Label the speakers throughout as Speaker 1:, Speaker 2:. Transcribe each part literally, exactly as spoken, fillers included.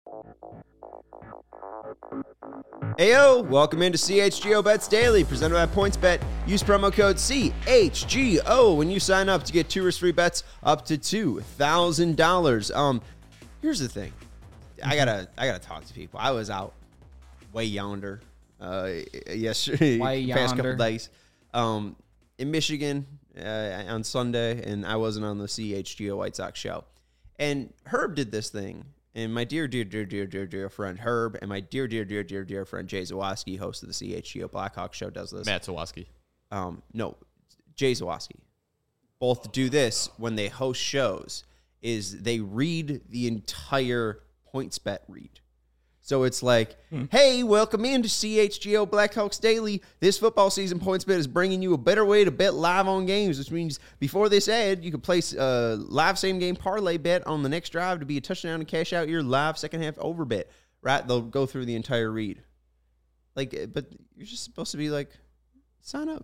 Speaker 1: Heyo, welcome into C H G O Bets Daily, presented by PointsBet. Use promo code C H G O when you sign up to get two risk-free bets up to two thousand dollars. Um, here's the thing, I gotta, I gotta talk to people. I was out way yonder, uh, yesterday,
Speaker 2: way
Speaker 1: past
Speaker 2: yonder.
Speaker 1: couple days, um, in Michigan uh, on Sunday, and I wasn't on the C H G O White Sox show. And Herb did this thing. And my dear, dear, dear, dear, dear, dear friend Herb and my dear, dear, dear, dear, dear friend Jay Zawoski, host of the C H G O Blackhawk show, does this.
Speaker 3: Matt Zawoski.
Speaker 1: Um, no, Jay Zawoski. Both do this when they host shows, is they read the entire PointsBet read. So it's like, hmm. hey, welcome into C H G O Blackhawks Daily. This football season, PointsBet is bringing you a better way to bet live on games, which means before this ad, you can place a live same-game parlay bet on the next drive to be a touchdown and cash out your live second-half over bet. Right? They'll go through the entire read. Like, but you're just supposed to be like, sign up.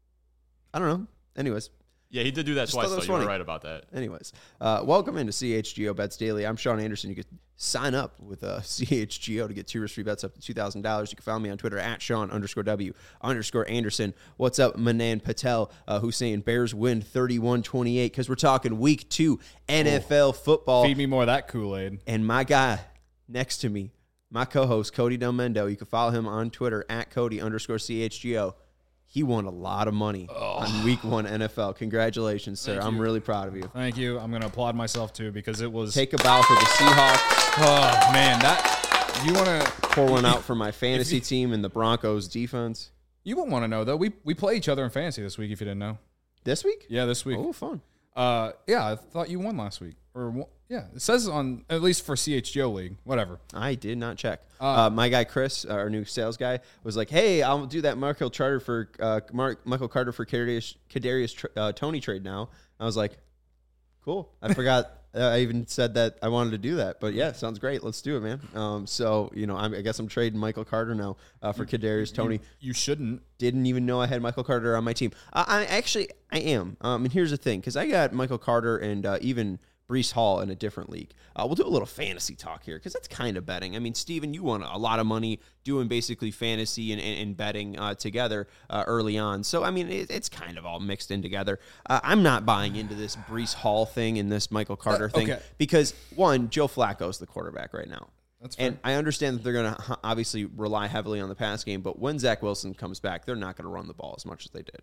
Speaker 1: I don't know. Anyways.
Speaker 3: Yeah, he did do that
Speaker 1: Just
Speaker 3: twice,
Speaker 1: that
Speaker 3: though. You
Speaker 1: funny.
Speaker 3: were right about that.
Speaker 1: Anyways, uh, welcome into C H G O Bets Daily. I'm Sean Anderson. You can sign up with uh, C H G O to get two risk-free bets up to two thousand dollars. You can follow me on Twitter at Sean underscore W underscore Anderson. What's up, Manan Patel, uh, who's saying Bears win thirty-one twenty-eight because we're talking week two N F L football.
Speaker 2: Feed me more of that Kool-Aid.
Speaker 1: And my guy next to me, my co-host, Cody Delmendo. You can follow him on Twitter at Cody underscore C H G O. He won a lot of money oh. on week one N F L. Congratulations, sir.
Speaker 2: Thank
Speaker 1: I'm
Speaker 2: you.
Speaker 1: really proud of you.
Speaker 2: Thank you. I'm going to applaud myself, too, because it was...
Speaker 1: Take a bow for the Seahawks.
Speaker 2: Oh, man. That you want to...
Speaker 1: Pour one out for my fantasy you, team and the Broncos defense.
Speaker 2: You won't want to know, though. We we play each other in fantasy this week, if you didn't know.
Speaker 1: This week?
Speaker 2: Yeah, this week.
Speaker 1: Oh, fun.
Speaker 2: Uh, yeah, I thought you won last week. Or yeah, it says on, at least for C H G O League, whatever.
Speaker 1: I did not check.
Speaker 2: Uh,
Speaker 1: uh, my guy Chris, our new sales guy, was like, "Hey, I'll do that Michael Carter for uh, Mark, Michael Carter for Kadarius, Kadarius uh, Tony trade now." I was like, "Cool." I forgot. uh, I even said that I wanted to do that, but yeah, sounds great. Let's do it, man. Um, so you know, I'm, I guess I'm trading Michael Carter now uh, for Kadarius Tony.
Speaker 2: You, you shouldn't.
Speaker 1: Didn't even know I had Michael Carter on my team. Uh, I actually I am. Um, and here's the thing, because I got Michael Carter and uh, even Breece Hall in a different league. Uh, we'll do a little fantasy talk here because that's kind of betting. I mean, Steven, you won a lot of money doing basically fantasy and, and, and betting uh, together uh, early on. So, I mean, it, it's kind of all mixed in together. Uh, I'm not buying into this Breece Hall thing and this Michael Carter
Speaker 2: uh,
Speaker 1: thing
Speaker 2: okay.
Speaker 1: because, one, Joe Flacco's the quarterback right now.
Speaker 2: That's fair.
Speaker 1: And I understand that they're going to obviously rely heavily on the pass game, but when Zach Wilson comes back, they're not going to run the ball as much as they did.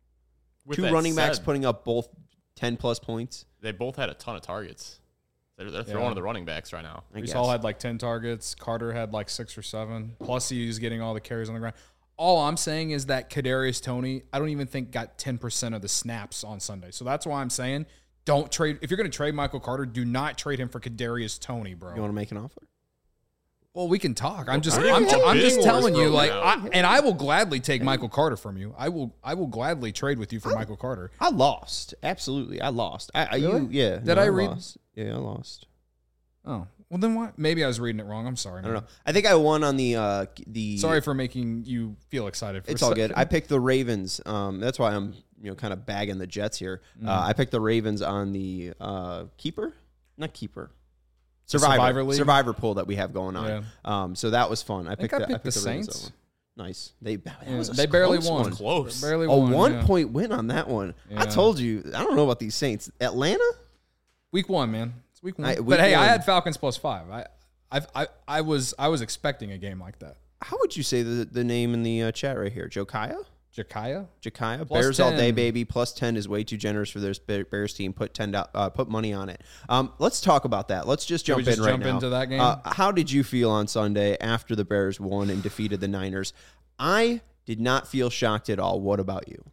Speaker 3: With
Speaker 1: Two running backs said, putting up both ten-plus points.
Speaker 3: They both had a ton of targets. They're, they're throwing yeah. to the running backs right now.
Speaker 2: Breece Hall had like ten targets. Carter had like six or seven. Plus, he's getting all the carries on the ground. All I'm saying is that Kadarius Toney, I don't even think got ten percent of the snaps on Sunday. So that's why I'm saying don't trade. If you're going to trade Michael Carter, do not trade him for Kadarius Toney, bro.
Speaker 1: You want to make an offer?
Speaker 2: Well, we can talk. I'm just, I'm, t- I'm just telling you, like, I, and I will gladly take Michael Carter from you. I will, I will gladly trade with you for I, Michael Carter.
Speaker 1: I lost, absolutely. I lost. I, I
Speaker 2: really?
Speaker 1: you, yeah.
Speaker 2: Did
Speaker 1: no,
Speaker 2: I,
Speaker 1: I
Speaker 2: read?
Speaker 1: Lost. Yeah, I lost.
Speaker 2: Oh, well then why? Maybe I was reading it wrong. I'm sorry. Man.
Speaker 1: I don't know. I think I won on the uh, the.
Speaker 2: Sorry for making you feel excited. For
Speaker 1: it's all good. I picked the Ravens. Um, that's why I'm you know kind of bagging the Jets here. Mm. Uh, I picked the Ravens on the uh, keeper, not keeper. Survivor,
Speaker 2: Survivor, League?
Speaker 1: Survivor pool that we have going on.
Speaker 2: Yeah.
Speaker 1: Um, so that was fun. I,
Speaker 2: I
Speaker 1: picked,
Speaker 2: I
Speaker 1: the,
Speaker 2: picked,
Speaker 1: I picked
Speaker 2: the,
Speaker 1: the
Speaker 2: Saints.
Speaker 1: Nice. They
Speaker 2: yeah, they barely won.
Speaker 1: One.
Speaker 3: Close.
Speaker 2: They barely
Speaker 1: a
Speaker 2: won. A
Speaker 1: one
Speaker 2: yeah.
Speaker 1: point win on that one.
Speaker 2: Yeah.
Speaker 1: I told you. I don't know about these Saints. Atlanta.
Speaker 2: Week one, man. It's week one. I, week
Speaker 1: but hey,
Speaker 2: one.
Speaker 1: I
Speaker 2: had Falcons plus five. I, I've, I, I was, I was expecting a game like that.
Speaker 1: How would you say the the name in the uh, chat right here? Josiah.
Speaker 2: Jakaya?
Speaker 1: Jakaya. Bears ten. All day, baby. Plus ten is way too generous for this Bears team. Put ten. Uh, put money on it. Um, let's talk about that. Let's just jump
Speaker 2: Should we just
Speaker 1: in right
Speaker 2: jump
Speaker 1: now.
Speaker 2: into that game?
Speaker 1: Uh, how did you feel on Sunday after the Bears won and defeated the Niners? I did not feel shocked at all. What about you?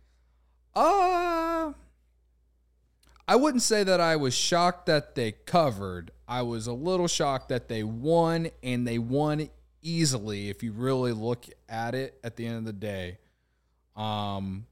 Speaker 2: Uh, I wouldn't say that I was shocked that they covered. I was a little shocked that they won, and they won easily if you really look at it at the end of the day. Um,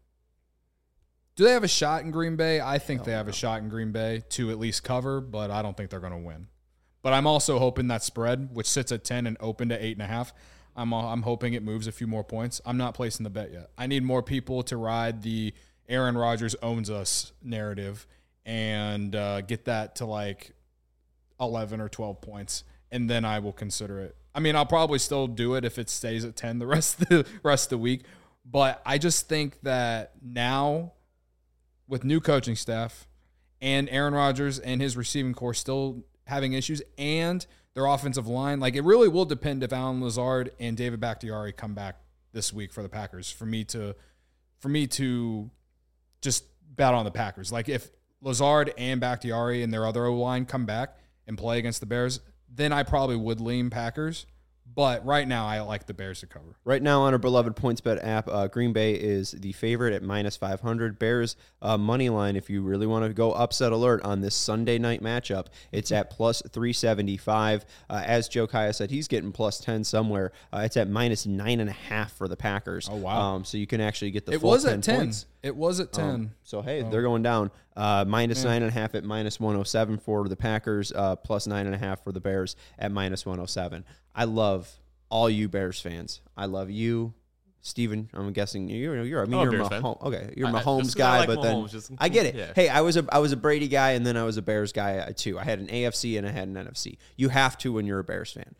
Speaker 2: do they have a shot in Green Bay? I think they have a shot in Green Bay to at least cover, but I don't think they're going to win. But I'm also hoping that spread, which sits at ten and open to eight and a half, I'm I'm hoping it moves a few more points. I'm not placing the bet yet. I need more people to ride the Aaron Rodgers owns us narrative and uh, get that to like eleven or twelve points. and then I will consider it. I mean, I'll probably still do it if it stays at ten the rest of the rest of the week. But I just think that now, with new coaching staff and Aaron Rodgers and his receiving core still having issues, and their offensive line, like it really will depend if Allen Lazard and David Bakhtiari come back this week for the Packers for me to for me to just bet on the Packers. Like if Lazard and Bakhtiari and their other O-line come back and play against the Bears, then I probably would lean Packers. But right now, I like the Bears to cover.
Speaker 1: Right now on our beloved PointsBet app, uh, Green Bay is the favorite at minus five hundred. Bears uh, money line, if you really want to go upset alert on this Sunday night matchup, it's at plus three seventy-five. Uh, as Joe Kaya said, he's getting plus ten somewhere. Uh, it's at minus nine and a half for the Packers.
Speaker 2: Oh, wow.
Speaker 1: Um, so you can actually get the
Speaker 2: it
Speaker 1: full
Speaker 2: was
Speaker 1: ten
Speaker 2: at ten.
Speaker 1: points.
Speaker 2: It was at ten.
Speaker 1: Um, so, hey,
Speaker 2: oh.
Speaker 1: they're going down. Uh, minus nine and a half at minus one oh seven for the Packers, uh, plus nine and a half for the Bears at minus one oh seven. I love all you Bears fans. I love you, Steven. I'm guessing you're you're I mean
Speaker 3: I'm a
Speaker 1: you're
Speaker 3: Bears fan.
Speaker 1: Mahomes. Okay, you're a
Speaker 3: I- I-
Speaker 1: Mahomes
Speaker 3: just 'cause I
Speaker 1: guy,
Speaker 3: like
Speaker 1: but then
Speaker 3: Mahomes, just-
Speaker 1: I get it.
Speaker 3: yeah.
Speaker 1: Hey, I was a I was a Brady guy, and then I was a Bears guy uh, too. I had an A F C and I had an N F C. You have to when you're a Bears fan.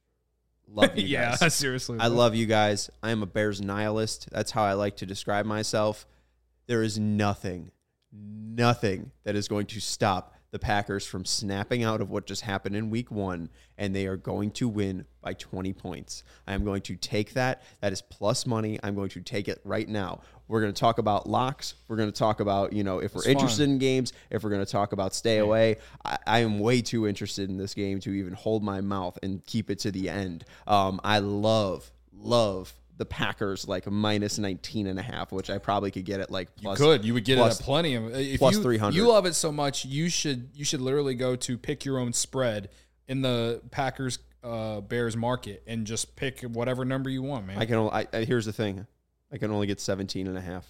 Speaker 1: Love you
Speaker 2: yeah,
Speaker 1: guys.
Speaker 2: seriously.
Speaker 1: I love you guys. I am a Bears nihilist. That's how I like to describe myself. There is nothing, nothing that is going to stop the Packers from snapping out of what just happened in week one, and they are going to win by twenty points. I am going to take that. That is plus money. I'm going to take it right now. We're going to talk about locks. We're going to talk about, you know, if we're
Speaker 2: It's
Speaker 1: interested
Speaker 2: fun.
Speaker 1: in games, if we're going to talk about stay away. I, I am way too interested in this game to even hold my mouth and keep it to the end. Um, I love, love the Packers like minus nineteen and a half, which I probably could get at like plus.
Speaker 2: You could. You would get
Speaker 1: plus-
Speaker 2: it at plenty of if
Speaker 1: plus
Speaker 2: you,
Speaker 1: three hundred.
Speaker 2: You love it so much, you should you should literally go to pick your own spread in the Packers uh, Bears market and just pick whatever number you want, man.
Speaker 1: I can only, I, I, here's the thing. I can only get seventeen and a half.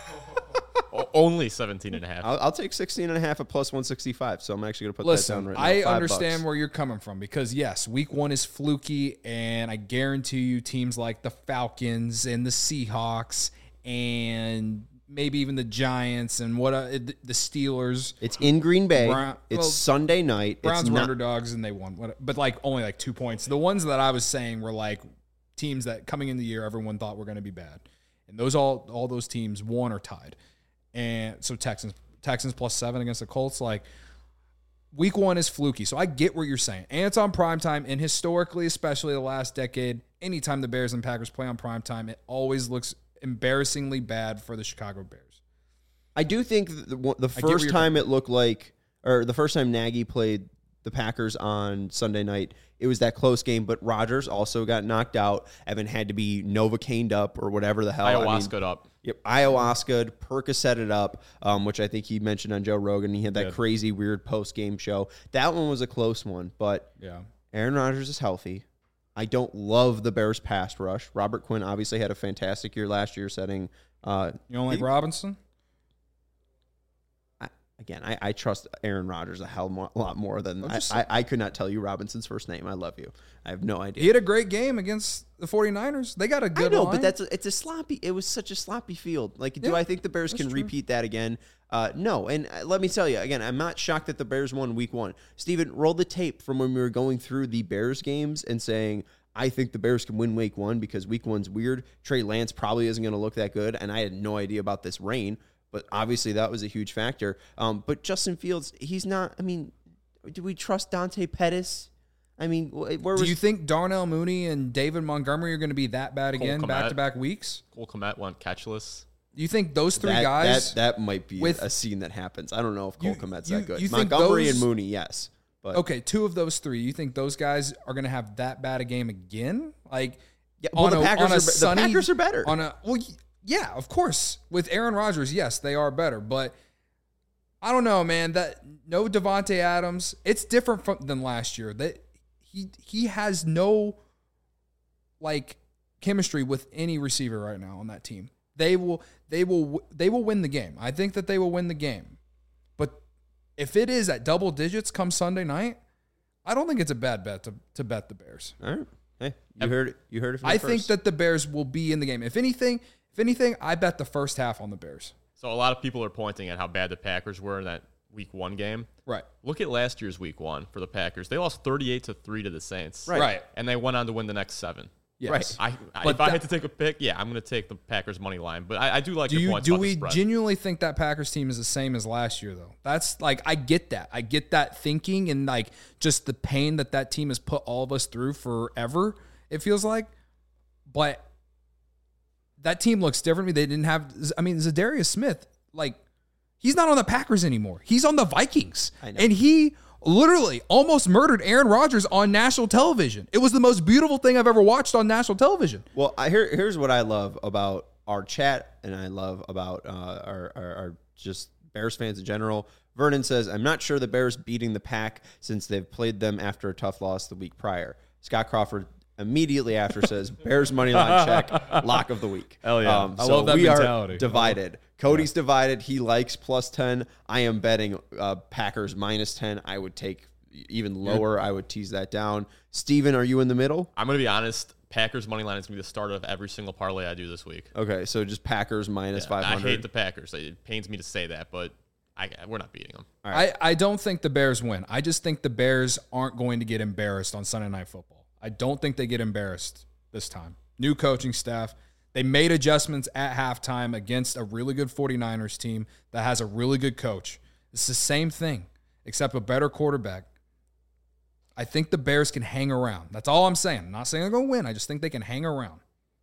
Speaker 3: O- Only seventeen and a half.
Speaker 1: I'll, I'll take sixteen and a half at plus one sixty-five. So I'm actually going to put
Speaker 2: Listen,
Speaker 1: that down right now.
Speaker 2: I
Speaker 1: Five
Speaker 2: understand
Speaker 1: bucks.
Speaker 2: where you're coming from because, yes, week one is fluky, and I guarantee you teams like the Falcons and the Seahawks and maybe even the Giants and what uh, the Steelers.
Speaker 1: It's in Green Bay.
Speaker 2: Brown-
Speaker 1: it's
Speaker 2: well,
Speaker 1: Sunday night.
Speaker 2: Browns
Speaker 1: it's
Speaker 2: were
Speaker 1: not,
Speaker 2: underdogs, and they won. What- But, like, only like two points. The ones that I was saying were, like, teams that coming in the year everyone thought were going to be bad. And those all all those teams won or tied. And so Texans Texans plus seven against the Colts, like week one is fluky. So I get what you're saying. And it's on primetime. And historically, especially the last decade, anytime the Bears and Packers play on primetime, it always looks embarrassingly bad for the Chicago Bears.
Speaker 1: I do think the, the
Speaker 2: where
Speaker 1: first
Speaker 2: you're
Speaker 1: time it looked like, or the first time Nagy played the Packers on Sunday night, it was that close game, but Rodgers also got knocked out. Evan had to be Novocained up or whatever the hell.
Speaker 3: Ayahuasca
Speaker 1: I mean,
Speaker 3: up.
Speaker 1: Yep, ayahuasca, Percocet it up, um, which I think he mentioned on Joe Rogan. He had that
Speaker 3: Good.
Speaker 1: crazy, weird post-game show. That one was a close one, but
Speaker 2: Yeah.
Speaker 1: Aaron Rodgers is healthy. I don't love the Bears pass rush. Robert Quinn obviously had a fantastic year last year setting. Uh,
Speaker 2: You don't like
Speaker 1: the-
Speaker 2: Robinson?
Speaker 1: I, again, I, I trust Aaron Rodgers a hell mo- lot more than
Speaker 2: I'm
Speaker 1: I,
Speaker 2: just
Speaker 1: I, I could not tell you Robinson's first name. I love you. I have no idea.
Speaker 2: He had a great game against the 49ers. They got a good
Speaker 1: I know,
Speaker 2: line.
Speaker 1: but that's a, it's a sloppy. It was such a sloppy field. Like, do
Speaker 2: Yeah,
Speaker 1: I think the Bears
Speaker 2: that's
Speaker 1: can
Speaker 2: true.
Speaker 1: repeat that again? Uh, no. And uh, let me tell you again, I'm not shocked that the Bears won Week One. Steven, roll the tape from when we were going through the Bears games and saying, I think the Bears can win Week One because Week One's weird. Trey Lance probably isn't going to look that good, and I had no idea about this rain. But obviously that was a huge factor. Um, but Justin Fields, he's not. I mean, do we trust Dante Pettis? I mean, wh- where
Speaker 2: Do
Speaker 1: was
Speaker 2: you think Darnell Mooney and David Montgomery are going to be that bad again,
Speaker 3: Kmet.
Speaker 2: back-to-back weeks?
Speaker 3: Cole Kmet went catchless.
Speaker 2: Do you think those three
Speaker 1: that,
Speaker 2: guys?
Speaker 1: That, that might be
Speaker 2: with-
Speaker 1: a scene that happens. I don't know if Cole
Speaker 2: You-
Speaker 1: Kmet's
Speaker 2: you-
Speaker 1: that good.
Speaker 2: you think
Speaker 1: Montgomery
Speaker 2: those-
Speaker 1: and Mooney, yes. But
Speaker 2: okay, two of those three. You think those guys are going to have that bad a game again? Like,
Speaker 1: yeah, well,
Speaker 2: on
Speaker 1: the
Speaker 2: a-
Speaker 1: Packers
Speaker 2: on a
Speaker 1: are be-
Speaker 2: sunny-
Speaker 1: the Packers are better.
Speaker 2: On a well, y- yeah, of course. With Aaron Rodgers, yes, they are better. But I don't know, man. That no Devontae Adams. It's different from than last year. That he he has no like chemistry with any receiver right now on that team. They will they will they will win the game. I think that they will win the game. But if it is at double digits come Sunday night, I don't think it's a bad bet to, to bet the Bears.
Speaker 1: All right. Hey, you heard it. You heard it from
Speaker 2: I
Speaker 1: me
Speaker 2: think
Speaker 1: first.
Speaker 2: that the Bears will be in the game. If anything, if anything, I bet the first half on the Bears.
Speaker 3: So a lot of people are pointing at how bad the Packers were in that week one game.
Speaker 2: Right.
Speaker 3: Look at last year's week one for the Packers. They lost thirty-eight to three to the Saints.
Speaker 2: Right. Right.
Speaker 3: And they went on to win the next seven.
Speaker 2: Yes.
Speaker 1: Right.
Speaker 3: I, I
Speaker 2: But
Speaker 3: if I
Speaker 2: that-
Speaker 3: had to take a pick, yeah, I'm going to take the Packers money line. But I, I do like
Speaker 2: Do
Speaker 3: your
Speaker 2: you
Speaker 3: points
Speaker 2: do
Speaker 3: about the
Speaker 2: we
Speaker 3: spread.
Speaker 2: genuinely think that Packers team is the same as last year though? That's like I get that. I get that thinking and like just the pain that that team has put all of us through forever. It feels like, but that team looks different. They didn't have. I mean, Zadarius Smith, like he's not on the Packers anymore. He's on the Vikings,
Speaker 1: I know.
Speaker 2: and he literally almost murdered Aaron Rodgers on national television. It was the most beautiful thing I've ever watched on national television.
Speaker 1: Well, I, here, here's what I love about our chat, and I love about uh, our, our, our just Bears fans in general. Vernon says, I'm not sure the Bears beating the Pack since they've played them after a tough loss the week prior. Scott Crawford immediately after says, Bears money line check, lock of the week.
Speaker 3: Hell yeah.
Speaker 1: Um,
Speaker 2: I
Speaker 1: so
Speaker 2: love that
Speaker 1: we
Speaker 2: mentality.
Speaker 1: are divided. Cody's divided. He likes plus ten. I am betting uh, Packers minus ten. I would take even lower. I would tease that down. Steven, are you in the middle?
Speaker 3: I'm going to be honest. Packers money line is going to be the start of every single parlay I do this week.
Speaker 1: Okay, so just Packers minus
Speaker 3: Yeah,
Speaker 1: five
Speaker 3: I
Speaker 1: hundred.
Speaker 3: hate the Packers. It pains me to say that, but I, we're not beating them.
Speaker 2: I, I don't think the Bears win. I just think the Bears aren't going to get embarrassed on Sunday Night Football. I don't think they get embarrassed this time. New coaching staff. They made adjustments at halftime against a really good 49ers team that has a really good coach. It's the same thing, except a better quarterback. I think the Bears can hang around. That's all I'm saying. I'm not saying they're going to win. I just think they can hang around.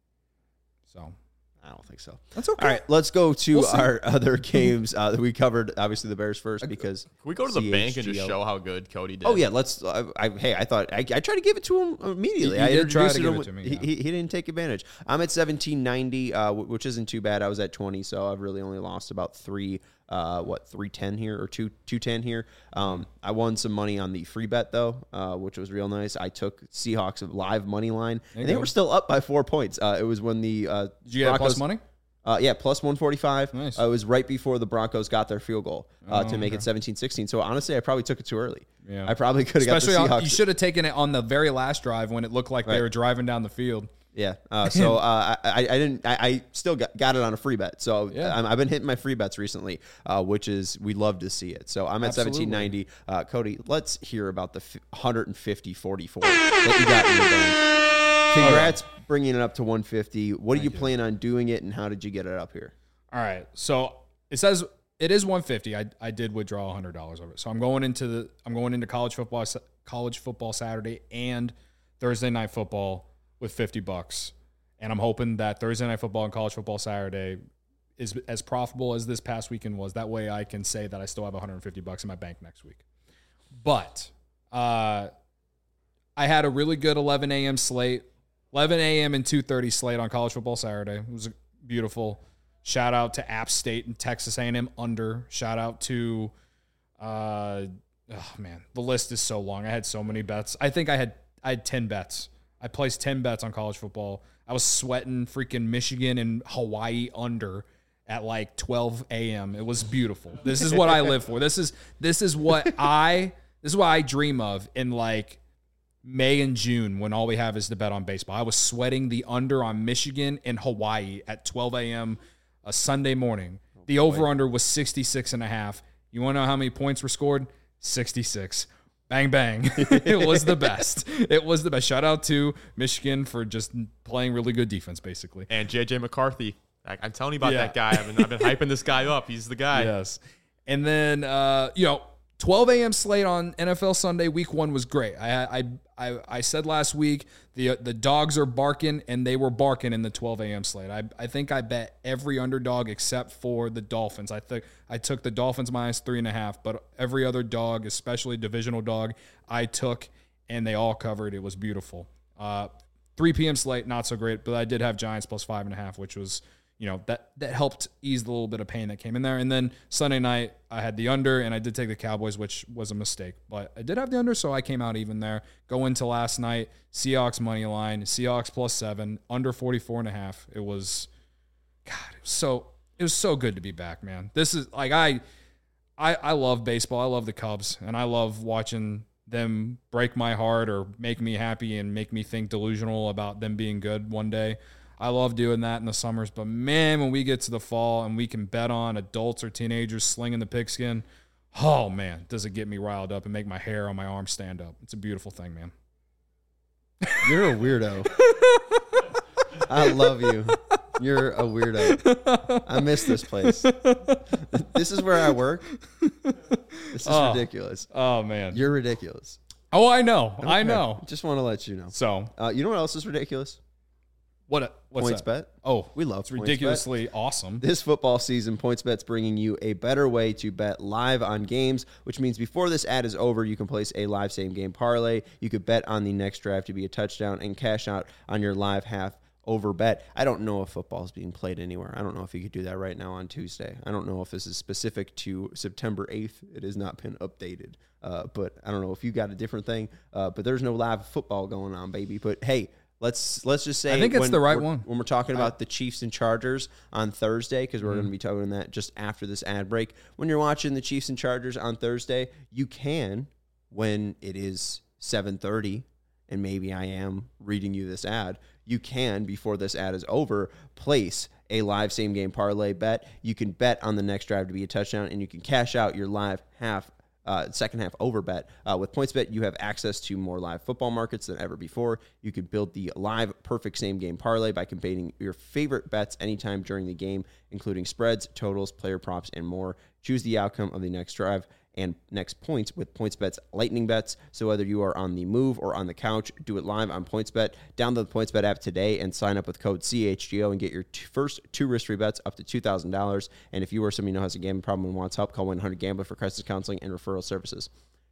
Speaker 2: So
Speaker 1: I don't think so.
Speaker 2: that's okay.
Speaker 1: All right, let's go to
Speaker 2: We'll see.
Speaker 1: our other games uh, that we covered. Obviously, the Bears first because.
Speaker 3: Can we go to the bank and just
Speaker 1: C H G O.
Speaker 3: show how good Cody did?
Speaker 1: Oh yeah, let's. Uh, I, hey, I thought I, I tried to give it to him immediately.
Speaker 2: You- you
Speaker 1: I
Speaker 2: did try
Speaker 1: introduced
Speaker 2: to give it
Speaker 1: him
Speaker 2: to me,
Speaker 1: with-
Speaker 2: yeah.
Speaker 1: He, he didn't take advantage. I'm at seventeen ninety, uh, wh- which isn't too bad. I was at twenty, so I've really only lost about three. Uh, what three ten here or two two ten here? Um, I won some money on the free bet though, uh, which was real nice. I took Seahawks live money line,
Speaker 2: you
Speaker 1: and they
Speaker 2: go.
Speaker 1: were still up by four points. Uh, it was when the uh,
Speaker 2: Did you get plus
Speaker 1: Broncos-
Speaker 2: money?
Speaker 1: Uh, yeah, plus one forty-five.
Speaker 2: Nice.
Speaker 1: Uh, it was right before the Broncos got their field goal uh,
Speaker 2: Oh,
Speaker 1: to make
Speaker 2: okay.
Speaker 1: it seventeen sixteen. So honestly, I probably took it too early.
Speaker 2: Yeah.
Speaker 1: I probably could have got the
Speaker 2: Especially, on,
Speaker 1: Seahawks.
Speaker 2: you should have taken it on the very last drive when it looked like
Speaker 1: Right.
Speaker 2: they were driving down the field.
Speaker 1: Yeah. Uh, so uh, I, I I didn't. I, I still got, got it on a free bet. So
Speaker 2: Yeah.
Speaker 1: I'm, I've been hitting my free bets recently, uh, which is we love to see it. So I'm at
Speaker 2: Absolutely.
Speaker 1: seventeen ninety. Uh, Cody, let's hear about the f- one fifty forty-four that you got in your bank. Congrats bringing it up to one fifty. What are you,
Speaker 2: you.
Speaker 1: plan on doing it, and how did you get it up here?
Speaker 2: All right. So it says it is one fifty. I I did withdraw one hundred dollars of it. So I'm going into the I'm going into college football college football Saturday and Thursday night football with fifty bucks. And I'm hoping that Thursday night football and college football Saturday is as profitable as this past weekend was. That way I can say that I still have one hundred fifty bucks in my bank next week. But uh I had a really good eleven a.m. slate. eleven a.m. and two thirty slate on college football Saturday. It was beautiful. Shout out to App State and Texas A and M under. Shout out to, uh, oh man, the list is so long. I had so many bets. I think I had I had ten bets. I placed ten bets on college football. I was sweating freaking Michigan and Hawaii under at like twelve a.m. It was beautiful. This is what I live for. This is this is what I this is what I dream of in like May and June when all we have is to bet on baseball. I was sweating the under on Michigan and Hawaii at twelve a.m. a Sunday morning. The over-under was sixty-six and a half. You want to know how many points were scored? sixty-six. Bang, bang. It was the best. It was the best. Shout out to Michigan for just playing really good defense, basically.
Speaker 3: And J J McCarthy. I, I'm telling you about
Speaker 2: Yeah.
Speaker 3: that guy. I've been, I've been hyping this guy up. He's the guy.
Speaker 2: Yes. And then, uh, you know, twelve a.m. slate on N F L Sunday, week one was great. I I I, I said last week the the dogs are barking, and they were barking in the twelve a.m. slate. I I think I bet every underdog except for the Dolphins. I think I took the Dolphins minus three and a half, but every other dog, especially divisional dog, I took, and they all covered. It was beautiful. Uh, three p.m. slate, not so great, but I did have Giants plus five and a half, which was, you know, that that helped ease the little bit of pain that came in there. And then Sunday night, I had the under, and I did take the Cowboys, which was a mistake. But I did have the under, so I came out even there. Go into last night, Seahawks money line, Seahawks plus seven, under forty-four and a half. It was, God, it was so it was so good to be back, man. This is like I, I I love baseball. I love the Cubs, and I love watching them break my heart or make me happy and make me think delusional about them being good one day. I love doing that in the summers, but man, when we get to the fall and we can bet on adults or teenagers slinging the pigskin, Oh, man, does it get me riled up and make my hair on my arm stand up. It's a beautiful thing, man.
Speaker 1: You're a weirdo. I love you. You're a weirdo. I miss this place. This is where I work. This is
Speaker 2: Oh.
Speaker 1: ridiculous.
Speaker 2: Oh, man.
Speaker 1: You're ridiculous.
Speaker 2: Oh, I know. I
Speaker 1: Okay.
Speaker 2: know.
Speaker 1: Just want to let you know.
Speaker 2: So,
Speaker 1: Uh, you know what else is ridiculous?
Speaker 2: what? What's
Speaker 1: PointsBet.
Speaker 2: that? Oh,
Speaker 1: We love
Speaker 2: it's
Speaker 1: PointsBet.
Speaker 2: ridiculously awesome.
Speaker 1: This football season, PointsBet's bringing you a better way to bet live on games, which means before this ad is over, you can place a live same-game parlay. You could bet on the next drive to be a touchdown and cash out on your live half over bet. I don't know if football is being played anywhere. I don't know if you could do that right now on Tuesday. I don't know if this is specific to September eighth. It has not been updated. Uh, but I don't know if you got a different thing. Uh, but there's no live football going on, baby. But hey, let's let's just say
Speaker 2: I think it's
Speaker 1: when
Speaker 2: the right
Speaker 1: we're-
Speaker 2: one.
Speaker 1: When we're talking about the Chiefs and Chargers on Thursday, because we're going to be talking that just after this ad break. When you're watching the Chiefs and Chargers on Thursday, you can, when it is seven thirty, and maybe I am reading you this ad, you can, before this ad is over, place a live same-game parlay bet. You can bet on the next drive to be a touchdown, and you can cash out your live half Uh, second half over bet. Uh, with PointsBet, you have access to more live football markets than ever before. You can build the live perfect same game parlay by combining your favorite bets anytime during the game, including spreads, totals, player props, and more. Choose the outcome of the next drive and next points with PointsBet's lightning bets. So whether you are on the move or on the couch, do it live on PointsBet. Download the PointsBet app today and sign up with code C H G O and get your t- first two risk-free bets up to two thousand dollars. And if you or somebody who has a gambling problem and wants help, call one eight hundred gambler for crisis counseling and referral services.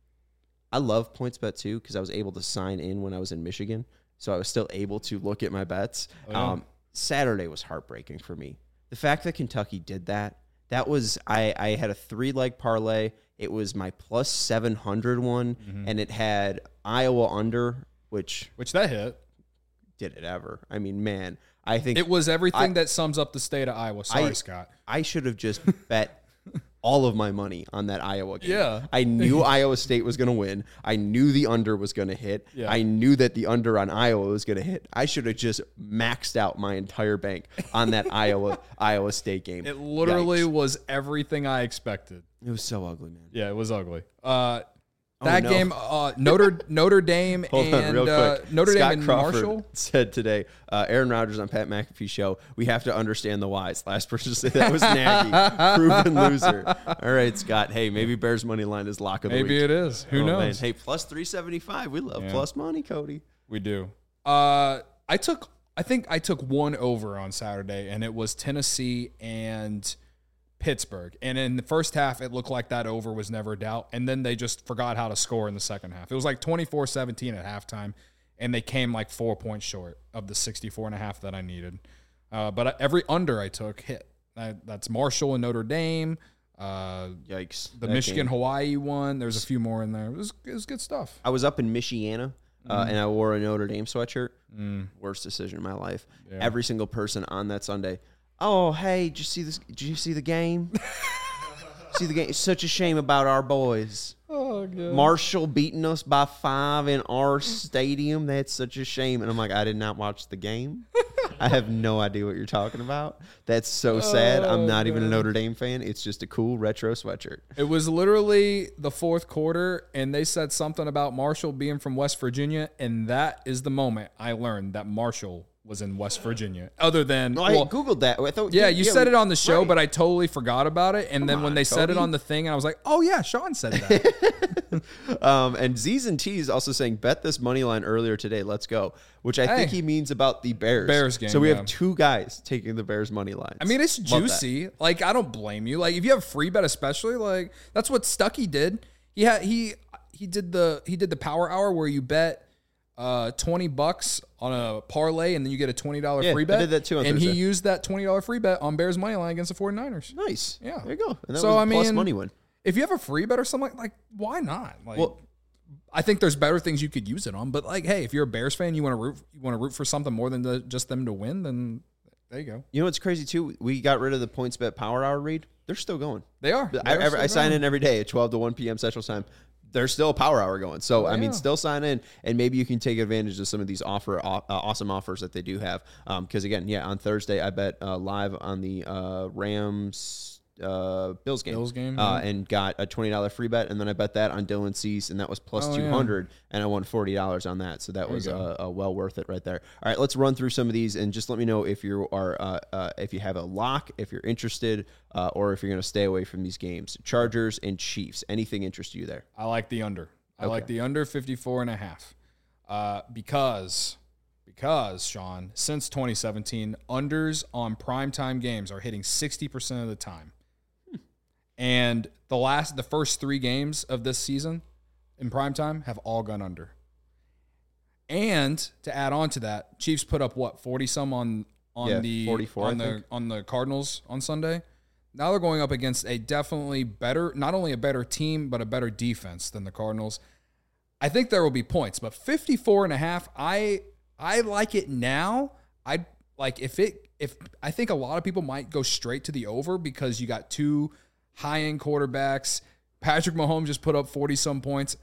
Speaker 1: I love PointsBet too because I was able to sign in when I was in Michigan, so I was still able to look at my bets.
Speaker 2: Oh, yeah.
Speaker 1: um, Saturday was heartbreaking for me. The fact that Kentucky did that, that was, I, I had a three-leg parlay. It was my plus seven hundred one,
Speaker 2: Mm-hmm.
Speaker 1: and it had Iowa under, which
Speaker 2: Which that hit.
Speaker 1: did it ever. I mean, man, I think
Speaker 2: It was everything
Speaker 1: I-
Speaker 2: that sums up the state of Iowa. Sorry,
Speaker 1: I-
Speaker 2: Scott.
Speaker 1: I should have just bet all of my money on that Iowa game.
Speaker 2: Yeah.
Speaker 1: I knew Iowa State was going to win. I knew the under was going to hit.
Speaker 2: Yeah.
Speaker 1: I knew that the under on Iowa was going to hit. I should have just maxed out my entire bank on that Iowa Iowa State game.
Speaker 2: It literally
Speaker 1: Yikes.
Speaker 2: was everything I expected.
Speaker 1: It was so ugly, man.
Speaker 2: Yeah, it was ugly. Uh, that
Speaker 1: no.
Speaker 2: game, uh, Notre Notre Dame
Speaker 1: Hold
Speaker 2: and
Speaker 1: on, real
Speaker 2: uh,
Speaker 1: quick.
Speaker 2: Notre
Speaker 1: Scott
Speaker 2: Dame and
Speaker 1: Crawford
Speaker 2: Marshall.
Speaker 1: said today, uh, Aaron Rodgers on Pat McAfee show, we have to understand the whys. Last person to say that was Nagy. Proven loser. All right, Scott. Hey, maybe Bears money line is lock of the
Speaker 2: Maybe
Speaker 1: week.
Speaker 2: it is. Who
Speaker 1: Oh,
Speaker 2: knows?
Speaker 1: man. Hey, plus three seventy-five. We love
Speaker 2: Yeah.
Speaker 1: plus money, Cody.
Speaker 2: We do. Uh, I took. I think I took one over on Saturday, and it was Tennessee and Pittsburgh. And in the first half, it looked like that over was never a doubt. And then they just forgot how to score in the second half. It was like twenty-four seventeen at halftime, and they came like four points short of the sixty-four and a half that I needed. Uh, but every under I took hit. I, that's Marshall and Notre Dame. Uh,
Speaker 1: Yikes.
Speaker 2: the
Speaker 1: That
Speaker 2: Michigan
Speaker 1: game.
Speaker 2: Hawaii one. There's a few more in there. It was, it was good stuff.
Speaker 1: I was up in Michiana, uh, and I wore a Notre Dame sweatshirt.
Speaker 2: Mm.
Speaker 1: Worst decision in my life.
Speaker 2: Yeah.
Speaker 1: Every single person on that Sunday. Oh, hey, did you see this? Did you see the game? see the game? It's such a shame about our boys.
Speaker 2: Oh, God.
Speaker 1: Marshall beating us by five in our stadium. That's such a shame. And I'm like, I did not watch the game. I have no idea what you're talking about. That's so sad. I'm not even a Notre Dame fan. It's just a cool retro sweatshirt.
Speaker 2: It was literally the fourth quarter, and they said something about Marshall being from West Virginia, and that is the moment I learned that Marshall was in West Virginia. Other than,
Speaker 1: No,
Speaker 2: well,
Speaker 1: I Googled that. I thought,
Speaker 2: yeah, you said
Speaker 1: we-
Speaker 2: it on the show,
Speaker 1: right.
Speaker 2: but I totally forgot about it. And then when
Speaker 1: on,
Speaker 2: they said it
Speaker 1: Cody.
Speaker 2: on the thing, I was like, oh, yeah, Sean said that.
Speaker 1: Um, and Z's and T's also saying, bet this money line earlier today. Let's go. Which I think
Speaker 2: Hey.
Speaker 1: he means about the Bears.
Speaker 2: Bears game,
Speaker 1: So we
Speaker 2: yeah.
Speaker 1: have two guys taking the Bears money lines.
Speaker 2: I mean, it's
Speaker 1: Love that.
Speaker 2: juicy. Like, I don't blame you. Like, if you have a free bet, especially, like that's what Stuckey did. He had he he did the he did the power hour where you bet uh twenty bucks on a parlay and then you get a twenty dollar
Speaker 1: Yeah,
Speaker 2: free
Speaker 1: I
Speaker 2: bet.
Speaker 1: did that too on
Speaker 2: and he
Speaker 1: Thursday.
Speaker 2: used that twenty dollar free bet on Bears money line against the 49ers.
Speaker 1: Nice.
Speaker 2: Yeah.
Speaker 1: There you go. And that
Speaker 2: So,
Speaker 1: was a
Speaker 2: I
Speaker 1: plus
Speaker 2: mean,
Speaker 1: money win.
Speaker 2: If you have a free bet or something like, like why not? Like,
Speaker 1: Well,
Speaker 2: I think there's better things you could use it on. But like, hey, if you're a Bears fan, you want to root you want to root for something more than the, just them to win, then there you go.
Speaker 1: you know what's crazy too? We got rid of the PointsBet Power Hour read. They're still going.
Speaker 2: They are.
Speaker 1: I,
Speaker 2: They are
Speaker 1: every- I
Speaker 2: still
Speaker 1: sign
Speaker 2: going.
Speaker 1: in every day at twelve to one p.m. Central Time. There's still a power hour going. So,
Speaker 2: Oh,
Speaker 1: I mean,
Speaker 2: yeah.
Speaker 1: still sign in, and maybe you can take advantage of some of these offer uh, awesome offers that they do have. Because, again, yeah, on Thursday, I bet uh, live on the uh, Rams uh, Bills game,
Speaker 2: Bills game,
Speaker 1: uh,
Speaker 2: yeah.
Speaker 1: and got a twenty dollar free bet, and then I bet that on Dylan Cease, and that was plus
Speaker 2: Oh,
Speaker 1: two
Speaker 2: yeah.
Speaker 1: hundred, and I won forty dollars on that. So that
Speaker 2: There
Speaker 1: was
Speaker 2: you go.
Speaker 1: uh, uh, well worth it right there. All right, let's run through some of these, and just let me know if you are uh, uh, if you have a lock, if you're interested, uh, or if you're going to stay away from these games. Chargers and Chiefs. Anything interest you there?
Speaker 2: I like the under. I
Speaker 1: Okay.
Speaker 2: like the under fifty-four and a half. Uh, because, because, Sean, since twenty seventeen, unders on primetime games are hitting sixty percent of the time. Hmm. And the last, the first three games of this season in primetime have all gone under. And to add on to that, Chiefs put up what, forty some on on
Speaker 1: Yeah,
Speaker 2: the
Speaker 1: forty-four,
Speaker 2: on
Speaker 1: I
Speaker 2: the
Speaker 1: think.
Speaker 2: on the Cardinals on Sunday. Now they're going up against a definitely better, not only a better team, but a better defense than the Cardinals. I think there will be points, but fifty-four and a half, I I like it now. I like if it if I think a lot of people might go straight to the over because you got two high-end quarterbacks. Patrick Mahomes just put up forty some points.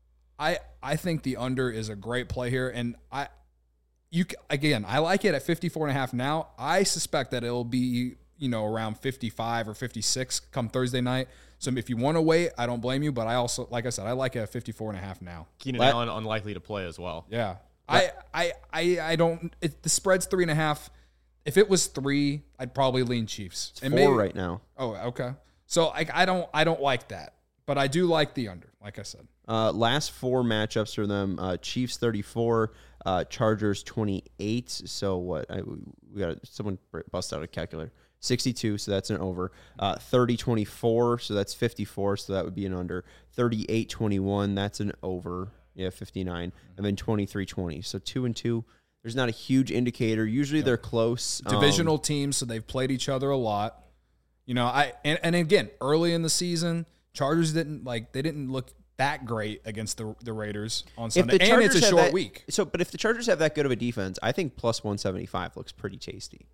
Speaker 2: I I think the under is a great play here, and I you again I like it at fifty-four and a half now. I suspect that it'll be, you know, around fifty-five or fifty-six come Thursday night. So if you want to wait, I don't blame you, but I also, like I said, I like it at fifty-four and a half now.
Speaker 3: Keenan
Speaker 1: Let-
Speaker 3: Allen unlikely to play as well.
Speaker 2: Yeah. I, I, I, I don't, it, the spread's three and a half. If it was three, I'd probably lean Chiefs.
Speaker 1: It's
Speaker 2: And
Speaker 1: four
Speaker 2: maybe-
Speaker 1: right now.
Speaker 2: Oh, okay. So I, I don't, I don't like that, but I do like the under, like I said.
Speaker 1: Uh, last four matchups for them: uh, Chiefs thirty-four, uh, Chargers twenty-eight. So what? I, we got someone bust out a calculator. sixty-two, so that's an over. Uh, thirty twenty-four, so that's fifty-four, so that would be an under. thirty-eight twenty-one, that's an over. Yeah, fifty-nine. And then twenty-three twenty. So two and two. There's not a huge indicator. Usually they're close. Um,
Speaker 2: Divisional teams, so they've played each other a lot. You know, I and, and again, early in the season, Chargers didn't like they didn't look that great against the the Raiders on
Speaker 1: if
Speaker 2: Sunday.
Speaker 1: the
Speaker 2: And
Speaker 1: Chargers
Speaker 2: it's a
Speaker 1: have
Speaker 2: short
Speaker 1: that-
Speaker 2: week.
Speaker 1: So, but if the Chargers have that good of a defense, I think plus one seventy-five looks pretty tasty.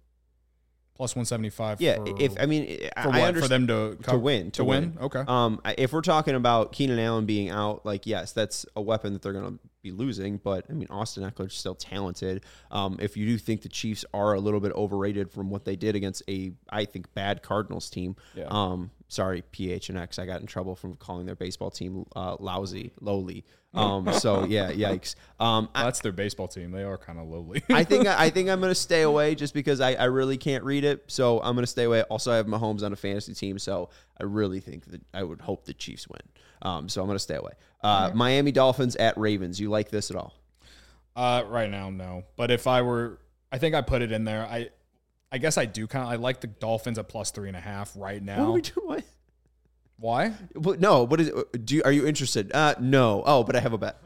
Speaker 2: Plus one seventy-five.
Speaker 1: Yeah,
Speaker 2: for,
Speaker 1: if I mean, I
Speaker 2: for what?
Speaker 1: understand
Speaker 2: For them to
Speaker 1: to
Speaker 2: co-
Speaker 1: win,
Speaker 2: to, win. Okay.
Speaker 1: Um, I- if we're talking about Keenan Allen being out, like yes, that's a weapon that they're going to be losing. But I mean, Austin Eckler's still talented. Um, if you do think the Chiefs are a little bit overrated from what they did against a, I think, bad Cardinals team.
Speaker 2: Yeah.
Speaker 1: Um, sorry, P H N X. I got in trouble from calling their baseball team uh, lousy, lowly. Um, so yeah, yikes. Um, I,
Speaker 2: That's their baseball team. They are kind of lowly.
Speaker 1: I think I think I'm gonna stay away just because I, I really can't read it. So I'm gonna stay away. Also, I have Mahomes on a fantasy team, so I really think that I would hope the Chiefs win. Um, so I'm gonna stay away. Uh, Miami Dolphins at Ravens. You like this at all?
Speaker 2: Uh, right now, no. But if I were, I think I put it in there. I, I guess I do kind of. I like the Dolphins at plus three and a half right now.
Speaker 1: What are we doing?
Speaker 2: Why?
Speaker 1: What, no. What is? It? Do you, are you interested? Uh, no. Oh, but I have a bet.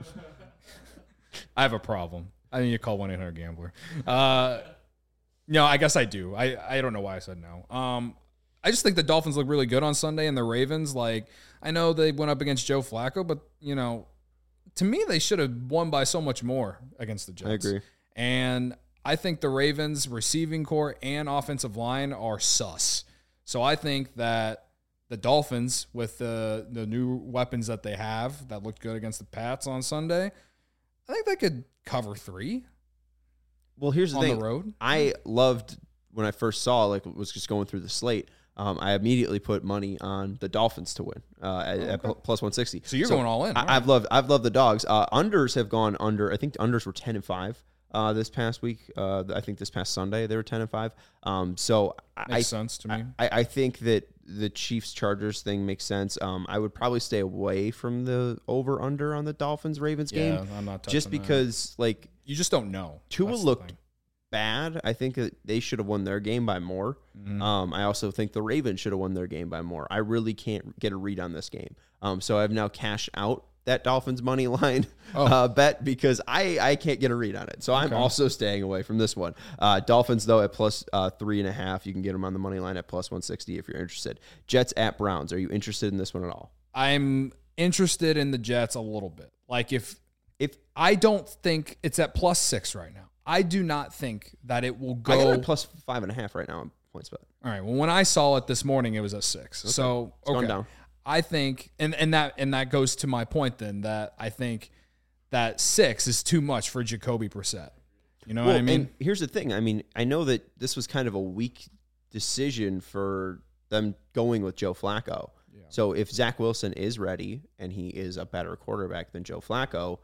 Speaker 2: I have a problem. I need to call one eight hundred gambler. Uh, no, I guess I do. I, I don't know why I said no. Um, I just think the Dolphins look really good on Sunday, and the Ravens, like, I know they went up against Joe Flacco, but, you know, to me, they should have won by so much more against the Jets.
Speaker 1: I agree.
Speaker 2: And I think the Ravens' receiving core and offensive line are sus. So I think that the Dolphins, with the, the new weapons that they have that looked good against the Pats on Sunday, I think they could cover three
Speaker 1: Well, here's the
Speaker 2: on
Speaker 1: thing.
Speaker 2: the road.
Speaker 1: I loved when I first saw, like, was just going through the slate. Um, I immediately put money on the Dolphins to win uh, at, at
Speaker 2: okay.
Speaker 1: plus one sixty.
Speaker 2: So you're going all in.
Speaker 1: I,
Speaker 2: All
Speaker 1: I've
Speaker 2: right.
Speaker 1: loved I've loved the dogs. Uh, unders have gone under. I think the unders were ten and five uh, this past week. Uh, I think this past Sunday they were ten and five. Um, so I,
Speaker 2: Makes sense to me.
Speaker 1: I, I think that the Chiefs Chargers thing makes sense. Um, I would probably stay away from the over under on the Dolphins Ravens
Speaker 2: Yeah,
Speaker 1: game
Speaker 2: I'm not touching
Speaker 1: just
Speaker 2: that.
Speaker 1: because like
Speaker 2: You just don't know.
Speaker 1: Tua
Speaker 2: That's the
Speaker 1: looked
Speaker 2: thing.
Speaker 1: bad. I think that they should have won their game by more.
Speaker 2: Mm-hmm.
Speaker 1: Um, I also think the Ravens should have won their game by more. I really can't get a read on this game. Um, so I've now cashed out that Dolphins money line
Speaker 2: Oh.
Speaker 1: uh, bet because I, I can't get a read on it. So I'm
Speaker 2: Okay.
Speaker 1: also staying away from this one. Uh, Dolphins, though, at plus uh, three and a half. You can get them on the money line at plus one sixty if you're interested. Jets at Browns. Are you interested in this one at all?
Speaker 2: I'm interested in the Jets a little bit. Like if
Speaker 1: If
Speaker 2: I don't think it's at plus six right now. I do not think that it will go.
Speaker 1: I got it at plus five and a half right now on points bet.
Speaker 2: All right. Well, when I saw it this morning, it was at six. So
Speaker 1: It's gone
Speaker 2: okay.
Speaker 1: down.
Speaker 2: I think, and and that and that goes to my point then that I think that six is too much for Jacoby Brissett. You know
Speaker 1: Well,
Speaker 2: what I mean?
Speaker 1: and here's the thing. I mean, I know that this was kind of a weak decision for them going with Joe Flacco. Yeah. So if Zach Wilson is ready and he is a better quarterback than Joe Flacco,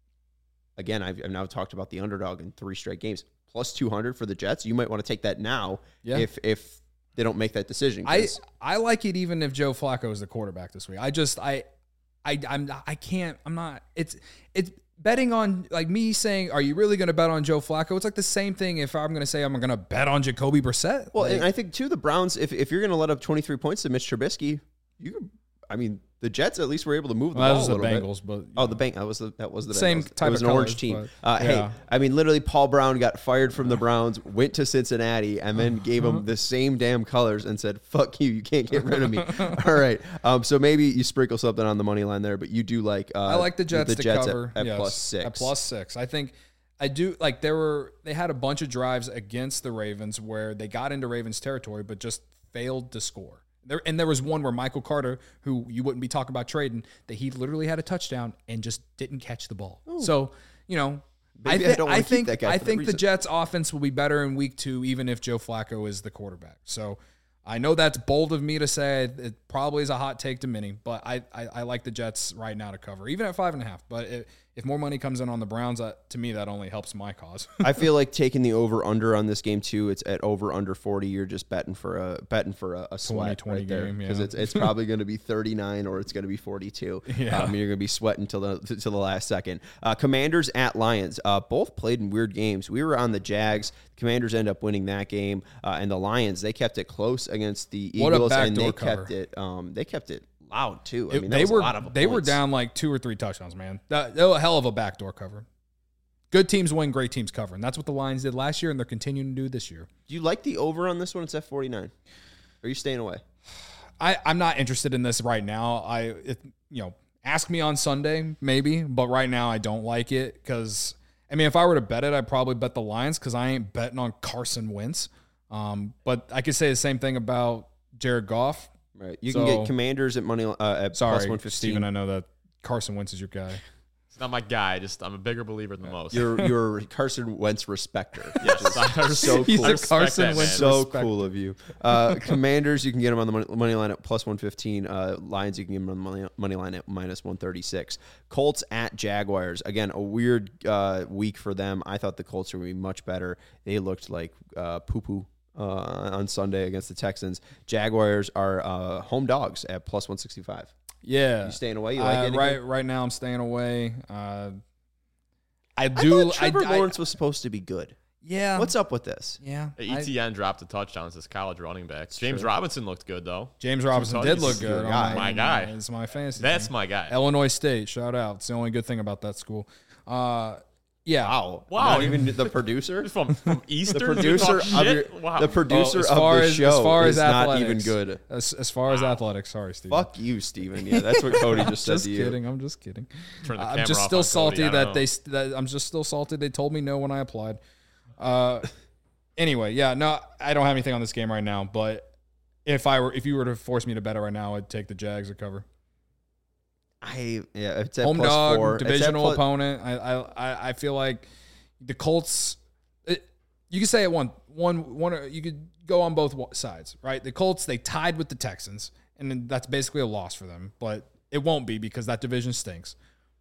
Speaker 1: again, I've, I've now talked about the underdog in three straight games. Plus two hundred for the Jets. You might want to take that now yeah. if if they don't make that decision.
Speaker 2: I, I like it even if Joe Flacco is the quarterback this week. I just I I I'm I can't I'm not it's it's betting on like me saying, are you really going to bet on Joe Flacco? It's like the same thing if I'm going to say I'm going to bet on Jacoby Brissett.
Speaker 1: Well,
Speaker 2: like,
Speaker 1: and I think too the Browns, if if you're going to let up twenty-three points to Mitch Trubisky, you could, I mean, the Jets at least were able to move the
Speaker 2: well,
Speaker 1: ball
Speaker 2: that
Speaker 1: a
Speaker 2: was the
Speaker 1: little
Speaker 2: Bengals,
Speaker 1: bit.
Speaker 2: but
Speaker 1: oh, the Bengals. That was the that was the
Speaker 2: same
Speaker 1: Bengals.
Speaker 2: type
Speaker 1: It was
Speaker 2: of
Speaker 1: an
Speaker 2: colors,
Speaker 1: orange team.
Speaker 2: But,
Speaker 1: uh,
Speaker 2: yeah.
Speaker 1: Hey, I mean, literally, Paul Brown got fired from the Browns, went to Cincinnati, and then gave them the same damn colors and said, "Fuck you, you can't get rid of me." All right, um, so maybe you sprinkle something on the money line there, but you do like. Uh,
Speaker 2: I like the Jets,
Speaker 1: the
Speaker 2: to
Speaker 1: Jets
Speaker 2: cover
Speaker 1: at, at
Speaker 2: yes,
Speaker 1: plus six.
Speaker 2: At plus six, I think. I do like there were they had a bunch of drives against the Ravens where they got into Ravens territory but just failed to score. There and there was one where Michael Carter, who you wouldn't be talking about trading, that he literally had a touchdown and just didn't catch the ball. Ooh. So, you know,
Speaker 1: Maybe
Speaker 2: I, th-
Speaker 1: I, don't
Speaker 2: I think
Speaker 1: that guy
Speaker 2: I
Speaker 1: for
Speaker 2: think
Speaker 1: that
Speaker 2: the Jets offense will be better in week two even if Joe Flacco is the quarterback. So, I know that's bold of me to say. It probably is a hot take to many, but I, I, I like the Jets right now to cover, even at five and a half. But it, if more money comes in on the Browns, uh, to me, that only helps my cause.
Speaker 1: I feel like taking the over under on this game too. It's at over under forty. You're just betting for a betting for a, a sweat
Speaker 2: twenty, twenty
Speaker 1: right
Speaker 2: game
Speaker 1: because
Speaker 2: yeah.
Speaker 1: it's it's probably going to be thirty-nine or it's going to be forty-two.
Speaker 2: Yeah,
Speaker 1: um, you're going to be sweating till the till the last second. Uh, Commanders at Lions. Uh, both played in weird games. We were on the Jags. Commanders end up winning that game, uh, and the Lions they kept it close against the
Speaker 2: what
Speaker 1: Eagles,
Speaker 2: a
Speaker 1: and they
Speaker 2: cover.
Speaker 1: kept it. Um, they kept it. Loud too. I
Speaker 2: It,
Speaker 1: mean, that
Speaker 2: they
Speaker 1: was
Speaker 2: were
Speaker 1: a lot of
Speaker 2: they
Speaker 1: points.
Speaker 2: were down like two or three touchdowns, man. That, that was a hell of a backdoor cover. Good teams win, great teams cover, and that's what the Lions did last year, and they're continuing to do this year.
Speaker 1: Do you like the over on this one? It's at forty-nine. Are you staying away?
Speaker 2: I, I'm not interested in this right now. I it, you know ask me on Sunday maybe, but right now I don't like it because I mean if I were to bet it, I'd probably bet the Lions because I ain't betting on Carson Wentz. Um, but I could say the same thing about Jared Goff.
Speaker 1: Right. You
Speaker 2: So-
Speaker 1: can get Commanders at money uh, at
Speaker 2: Sorry,
Speaker 1: plus one fifteen.
Speaker 2: Steven, I know that Carson Wentz is your guy.
Speaker 3: It's not my guy. Just I'm a bigger believer than most.
Speaker 1: You're you're a Carson Wentz respecter.
Speaker 3: yes, I
Speaker 1: so cool.
Speaker 2: He's a
Speaker 3: respect
Speaker 2: Carson
Speaker 3: that,
Speaker 2: Wentz
Speaker 3: man.
Speaker 1: So
Speaker 2: respecter.
Speaker 1: cool of you. Uh, Commanders, you can get them on the money, money line at plus one fifteen. Uh, Lions, you can get them on the money, money line at minus one thirty-six. Colts at Jaguars. Again, a weird uh, week for them. I thought the Colts were going to be much better. They looked like uh, poo-poo. Uh, on Sunday against the Texans. Jaguars are uh, home dogs at plus one sixty-five.
Speaker 2: Yeah,
Speaker 1: You staying away? You like
Speaker 2: uh,
Speaker 1: anything?
Speaker 2: right right now I'm staying away. Uh, I
Speaker 1: I
Speaker 2: do.
Speaker 1: thought Trevor
Speaker 2: I,
Speaker 1: Lawrence was supposed to be good.
Speaker 2: yeah.
Speaker 1: What's up with this?
Speaker 2: Yeah.
Speaker 3: Hey,
Speaker 2: I-
Speaker 3: E T N dropped a touchdown as his college running back. James
Speaker 1: true.
Speaker 3: Robinson looked good though.
Speaker 2: James Robinson
Speaker 3: touchdowns.
Speaker 2: did
Speaker 3: He's
Speaker 2: look
Speaker 1: your
Speaker 2: good.
Speaker 1: guy.
Speaker 2: Oh,
Speaker 3: My guy.
Speaker 2: It's my fantasy.
Speaker 3: That's
Speaker 2: team.
Speaker 3: my guy.
Speaker 2: Illinois State. Shout out. It's the only good thing about that school. Uh, yeah.
Speaker 1: Wow.
Speaker 3: Wow.
Speaker 1: Not even the producer?
Speaker 3: From from Eastern.
Speaker 1: The
Speaker 3: you
Speaker 1: producer
Speaker 3: talk
Speaker 1: of your,
Speaker 3: shit? Wow.
Speaker 1: the producer
Speaker 2: Oh, as
Speaker 1: of
Speaker 2: far
Speaker 1: the
Speaker 2: as,
Speaker 1: show
Speaker 2: as far
Speaker 1: is
Speaker 2: as
Speaker 1: not
Speaker 2: athletics,
Speaker 1: even good.
Speaker 2: As, as far as athletics, sorry, Steve.
Speaker 1: Fuck you, Steven. Yeah, that's what Cody just said
Speaker 2: Just
Speaker 1: to you.
Speaker 2: kidding. I'm just kidding.
Speaker 3: Turn the
Speaker 2: I'm
Speaker 3: camera
Speaker 2: just
Speaker 3: off
Speaker 2: still
Speaker 3: on
Speaker 2: salty
Speaker 3: Cody, I
Speaker 2: that
Speaker 3: don't
Speaker 2: they.
Speaker 3: know.
Speaker 2: st- That I'm just still salty. They told me no when I applied. Uh, anyway, yeah, no, I don't have anything on this game right now. But if I were, if you were to force me to bet it right now, I'd take the Jags to cover.
Speaker 1: I yeah, it's at
Speaker 2: Home
Speaker 1: plus
Speaker 2: dog,
Speaker 1: four. It's at
Speaker 2: divisional
Speaker 1: plus-
Speaker 2: opponent. I, I I I feel like the Colts. It, you could say it one one one. You could go on both wa- sides, right? The Colts they tied with the Texans, and then that's basically a loss for them. But it won't be because that division stinks.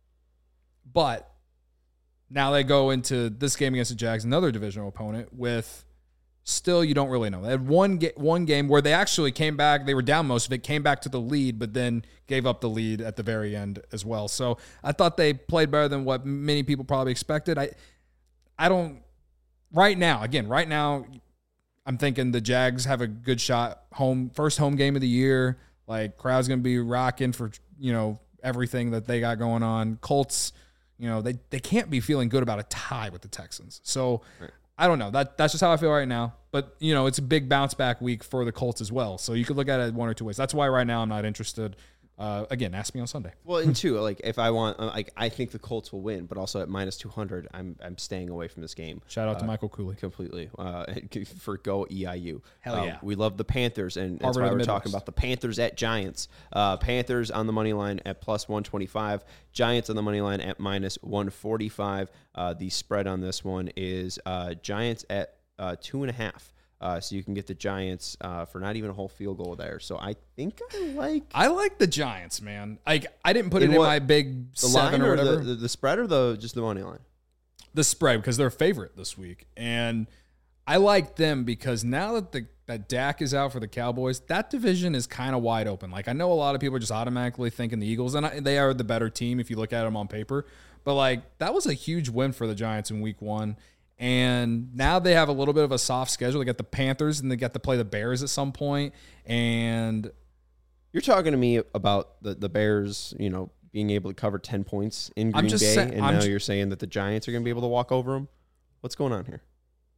Speaker 2: But now they go into this game against the Jags, another divisional opponent, with still you don't really know. They had one ga- one game where they actually came back. They were down most of it, came back to the lead, but then gave up the lead at the very end as well. So I thought they played better than what many people probably expected. I I don't right now. Again, right now, I'm thinking the Jags have a good shot. Home first home game of the year. Like crowd's gonna be rocking for you know everything that they got going on. Colts. You know, they, they can't be feeling good about a tie with the Texans. So, right. I don't know. That That's just how I feel right now. But, you know, it's a big bounce back week for the Colts as well. So, you could look at it one or two ways. That's why right now I'm not interested. Uh, again, ask me on Sunday.
Speaker 1: Well, and two, like if I want, uh, like I think the Colts will win, but also at minus two hundred, I'm I'm staying away from this game.
Speaker 2: Shout out
Speaker 1: uh,
Speaker 2: to Michael Cooley.
Speaker 1: completely uh, for go E I U.
Speaker 2: Hell
Speaker 1: um,
Speaker 2: yeah.
Speaker 1: We love the Panthers, and that's
Speaker 2: Harvard
Speaker 1: why
Speaker 2: of
Speaker 1: we're
Speaker 2: the
Speaker 1: talking
Speaker 2: Midwest.
Speaker 1: about the Panthers at Giants. Uh, Panthers on the money line at plus one twenty-five. Giants on the money line at minus one forty-five. Uh, the spread on this one is uh, Giants at uh, two and a half. Uh, so you can get the Giants uh, for not even a whole field goal there. So I think I like
Speaker 2: I like the Giants, man. Like I didn't put
Speaker 1: In
Speaker 2: it in
Speaker 1: what-
Speaker 2: my big
Speaker 1: the
Speaker 2: seven
Speaker 1: line
Speaker 2: or
Speaker 1: or
Speaker 2: whatever.
Speaker 1: the, the, the spread or the just the money line.
Speaker 2: The spread because they're a favorite this week, and I like them because now that the that Dak is out for the Cowboys, that division is kind of wide open. Like I know a lot of people are just automatically thinking the Eagles, and I, they are the better team if you look at them on paper. But like that was a huge win for the Giants in Week One, and now they have a little bit of a soft schedule. They got the Panthers, and they get to play the Bears at some point, and
Speaker 1: You're talking to me about the, the Bears, you know, being able to cover ten points in
Speaker 2: I'm
Speaker 1: Green
Speaker 2: just
Speaker 1: Bay,
Speaker 2: sa-
Speaker 1: and
Speaker 2: I'm
Speaker 1: now
Speaker 2: ju-
Speaker 1: you're saying that the Giants are going to be able to walk over them. What's going on here?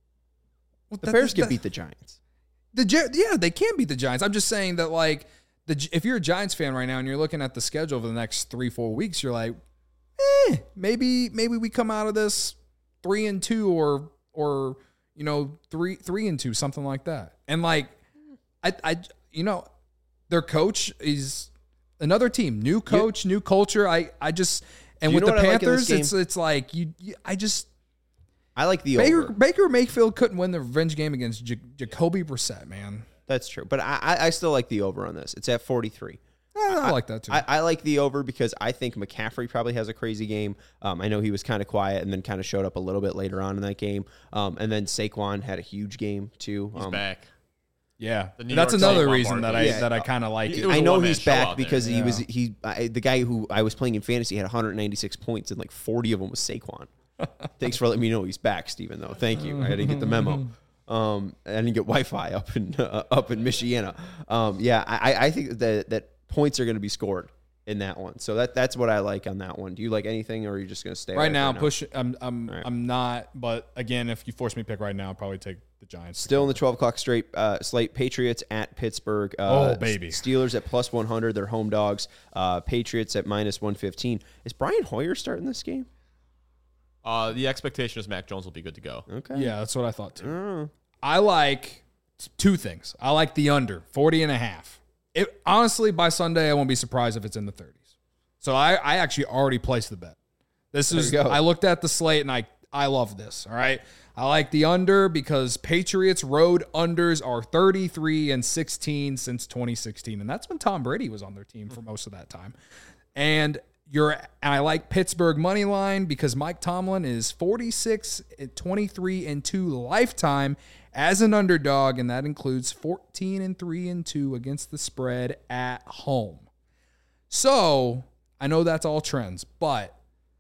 Speaker 2: well,
Speaker 1: The
Speaker 2: that-
Speaker 1: Bears
Speaker 2: that-
Speaker 1: can beat the Giants.
Speaker 2: The Gi- yeah, they can beat the Giants. I'm just saying that like the Gi- if you're a Giants fan right now and you're looking at the schedule over the next three four weeks, you're like, eh, maybe maybe we come out of this three and two or or you know three three and two something like that. And like I I you know their coach is another team, new coach, new culture. I I just and
Speaker 1: Do you
Speaker 2: with
Speaker 1: know
Speaker 2: the
Speaker 1: what I like in this
Speaker 2: Panthers, it's
Speaker 1: game?
Speaker 2: it's like you, you I just.
Speaker 1: I like the
Speaker 2: Baker
Speaker 1: over.
Speaker 2: Baker Mayfield couldn't win the revenge game against J- Jacoby Brissett, man.
Speaker 1: That's true, but I, I I still like the over on this. It's at forty-three.
Speaker 2: I, I like that too.
Speaker 1: I, I like the over because I think McCaffrey probably has a crazy game. Um, I know he was kind of quiet and then kind of showed up a little bit later on in that game. Um, and then Saquon had a huge game too.
Speaker 3: He's
Speaker 1: Um,
Speaker 3: back.
Speaker 2: yeah,
Speaker 3: The New
Speaker 2: that's
Speaker 3: York
Speaker 2: another
Speaker 3: Saquon
Speaker 2: reason that I
Speaker 3: Barkley.
Speaker 1: Yeah.
Speaker 2: that I kind of like
Speaker 3: It
Speaker 2: it.
Speaker 3: was
Speaker 1: I
Speaker 3: a
Speaker 1: know
Speaker 3: one-man
Speaker 1: he's
Speaker 3: show
Speaker 1: back
Speaker 3: out there.
Speaker 1: because he
Speaker 2: Yeah.
Speaker 1: was he I, the guy who I was playing in fantasy had one hundred ninety-six points and like forty of them was Saquon. Thanks for letting me know he's back, Steven, though. Thank you. I didn't get the memo. Um, I didn't get Wi-Fi up in uh, up in Michiana. Um, yeah, I, I think that that points are going to be scored in that one. So that that's what I like on that one. Do you like anything, or are you just going to stay away
Speaker 2: Right now,
Speaker 1: for
Speaker 2: push. I'm I'm
Speaker 1: right.
Speaker 2: I'm not. But again, if you force me to pick right now, I'll probably take the Giants.
Speaker 1: Still in the twelve o'clock straight uh, slate, Patriots at Pittsburgh. Uh,
Speaker 2: Oh, baby.
Speaker 1: Steelers at plus one hundred. They're home dogs. Uh, Patriots at minus one fifteen. Is Brian Hoyer starting this game?
Speaker 3: Uh, the expectation is Mac Jones will be good to go.
Speaker 1: Okay.
Speaker 2: Yeah, that's what I thought too.
Speaker 1: Oh.
Speaker 2: I like two things. I like the under forty and a half. It honestly, by Sunday, I won't be surprised if it's in the thirties. So I, I actually already placed the bet. This
Speaker 1: There
Speaker 2: is
Speaker 1: you go.
Speaker 2: I looked at the slate and I I love this. All right. I like the under because Patriots road unders are thirty-three and sixteen since twenty sixteen. And that's when Tom Brady was on their team for most of that time. And you're and I like Pittsburgh money line because Mike Tomlin is forty-six, twenty-three and two lifetime as an underdog, and that includes fourteen and three and two against the spread at home. So I know that's all trends, but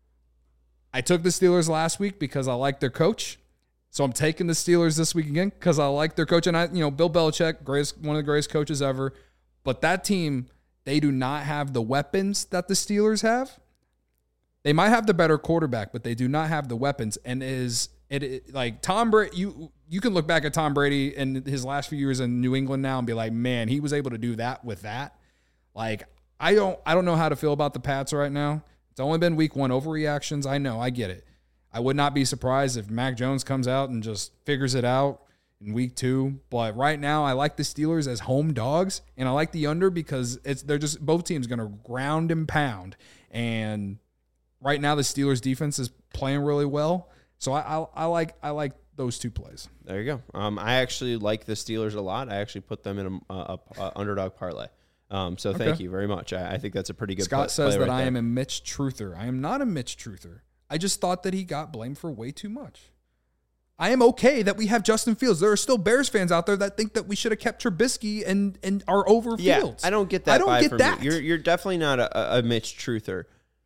Speaker 2: I took the Steelers last week because I like their coach. So I'm taking the Steelers this week again because I like their coach. And I, you know, Bill Belichick, greatest, one of the greatest coaches ever. But that team, they do not have the weapons that the Steelers have. They might have the better quarterback, but they do not have the weapons. And is it, it like Tom Brady? You you can look back at Tom Brady and his last few years in New England now and be like, man, he was able to do that with that. Like I don't I don't know how to feel about the Pats right now. It's only been week one overreactions. I know, I get it. I would not be surprised if Mac Jones comes out and just figures it out in week two. But right now, I like the Steelers as home dogs, and I like the under because it's they're just both teams going to ground and pound. And right now, the Steelers defense is playing really well, so I, I, I like I like those two plays.
Speaker 1: There you go. Um, I actually like the Steelers a lot. I actually put them in a, a, a underdog parlay. Um, so thank
Speaker 2: Okay.
Speaker 1: you very much. I, I think that's a pretty good.
Speaker 2: Scott
Speaker 1: play,
Speaker 2: says
Speaker 1: play
Speaker 2: that
Speaker 1: right
Speaker 2: I
Speaker 1: there.
Speaker 2: am a Mitch Truther. I am not a Mitch Truther. I just thought that he got blamed for way too much. I am okay that we have Justin Fields. There are still Bears fans out there that think that we should have kept Trubisky and and are over
Speaker 1: Yeah,
Speaker 2: Fields.
Speaker 1: I don't get that.
Speaker 2: I don't
Speaker 1: vibe
Speaker 2: get
Speaker 1: from
Speaker 2: that.
Speaker 1: You. You're you're definitely not a, a Mitch Truther.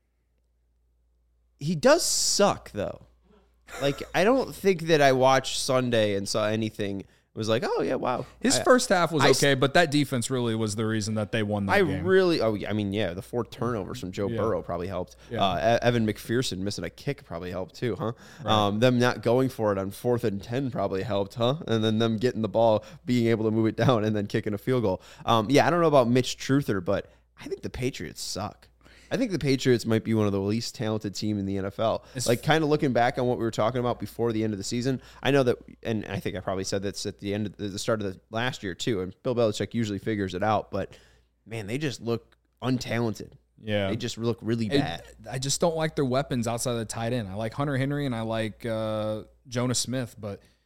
Speaker 1: He does suck though. Like I don't think that I watched Sunday and saw anything. It was like, oh yeah, wow.
Speaker 2: His
Speaker 1: I,
Speaker 2: first half was
Speaker 1: I-
Speaker 2: okay, but that defense really was the reason that they won that
Speaker 1: I
Speaker 2: game.
Speaker 1: really, oh, yeah, I mean, yeah, the four turnovers from Joe
Speaker 2: Yeah.
Speaker 1: Burrow probably helped.
Speaker 2: Yeah.
Speaker 1: Uh, E- Evan McPherson missing a kick probably helped too, huh? Um, them not going for it on fourth and ten probably helped, huh? And then them getting the ball, being able to move it down, and then kicking a field goal. Um, yeah, I don't know about Mitch Truther, but I think the Patriots suck. I think the Patriots might be one of the least talented team in the N F L.
Speaker 2: It's-
Speaker 1: like kind of looking back on what we were talking about before the end of the season, I know that, and I think I probably said this at the end of the, the start of the last year too. And Bill Belichick usually figures it out, but man, they just look untalented.
Speaker 2: Yeah.
Speaker 1: They just look really
Speaker 2: It-
Speaker 1: bad.
Speaker 2: I just don't like their weapons outside of the tight end. I like Hunter Henry and I like uh, Jonas Smith, but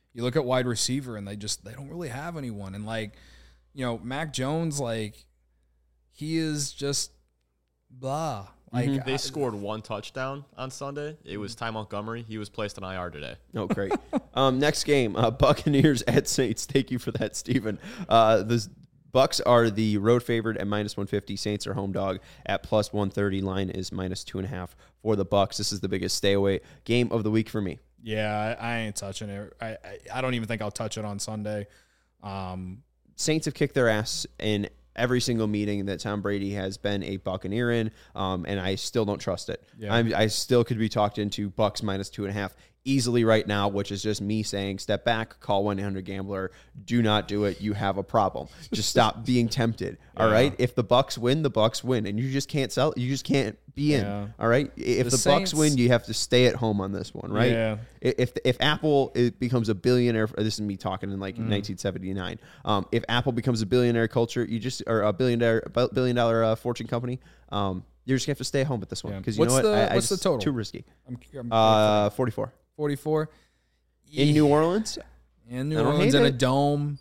Speaker 2: You look at wide receiver, and they just they don't really have anyone. And like, you know, Mac Jones, like he is just blah. Like
Speaker 3: Mm-hmm. They
Speaker 2: I,
Speaker 3: scored one touchdown on Sunday. It was Ty Montgomery. He was placed on I R today.
Speaker 1: Oh, great. um, next game, uh, Buccaneers at Saints. Thank you for that, Steven. Uh, the Bucks are the road favorite at minus one fifty. Saints are home dog at plus one thirty. Line is minus two and a half for the Bucks. This is the biggest stay away game of the week for me.
Speaker 2: Yeah, I, I ain't touching it. I, I I don't even think I'll touch it on Sunday. Um,
Speaker 1: Saints have kicked their ass in every single meeting that Tom Brady has been a Buccaneer in, um, and I still don't trust it.
Speaker 2: Yeah.
Speaker 1: I'm, I still could be talked into Bucks minus two and a half easily right now, which is just me saying, step back, call one eight hundred gambler. Do not do it. You have a problem. Just stop being tempted.
Speaker 2: Yeah.
Speaker 1: All right. If the Bucks win, the Bucks win, and you just can't sell. You just can't be in.
Speaker 2: Yeah.
Speaker 1: All right. If
Speaker 2: The
Speaker 1: the,
Speaker 2: Saints-
Speaker 1: Bucks win, you have to stay at home on this one, right?
Speaker 2: Yeah.
Speaker 1: If if Apple it becomes a billionaire, this is me talking in like
Speaker 2: Mm.
Speaker 1: nineteen seventy-nine. Um, if Apple becomes a billionaire culture, you just or a billion dollar billion dollar uh, fortune company, um, you're just gonna have to stay home with this one
Speaker 2: Yeah.
Speaker 1: because you
Speaker 2: What's
Speaker 1: know what?
Speaker 2: the-
Speaker 1: I, I
Speaker 2: what's the
Speaker 1: just-
Speaker 2: total?
Speaker 1: Too risky.
Speaker 2: I'm, I'm
Speaker 1: Uh, forty-four
Speaker 2: forty-four
Speaker 1: in New Orleans.
Speaker 2: in New
Speaker 1: I don't
Speaker 2: Orleans
Speaker 1: hate
Speaker 2: in a
Speaker 1: it.
Speaker 2: dome.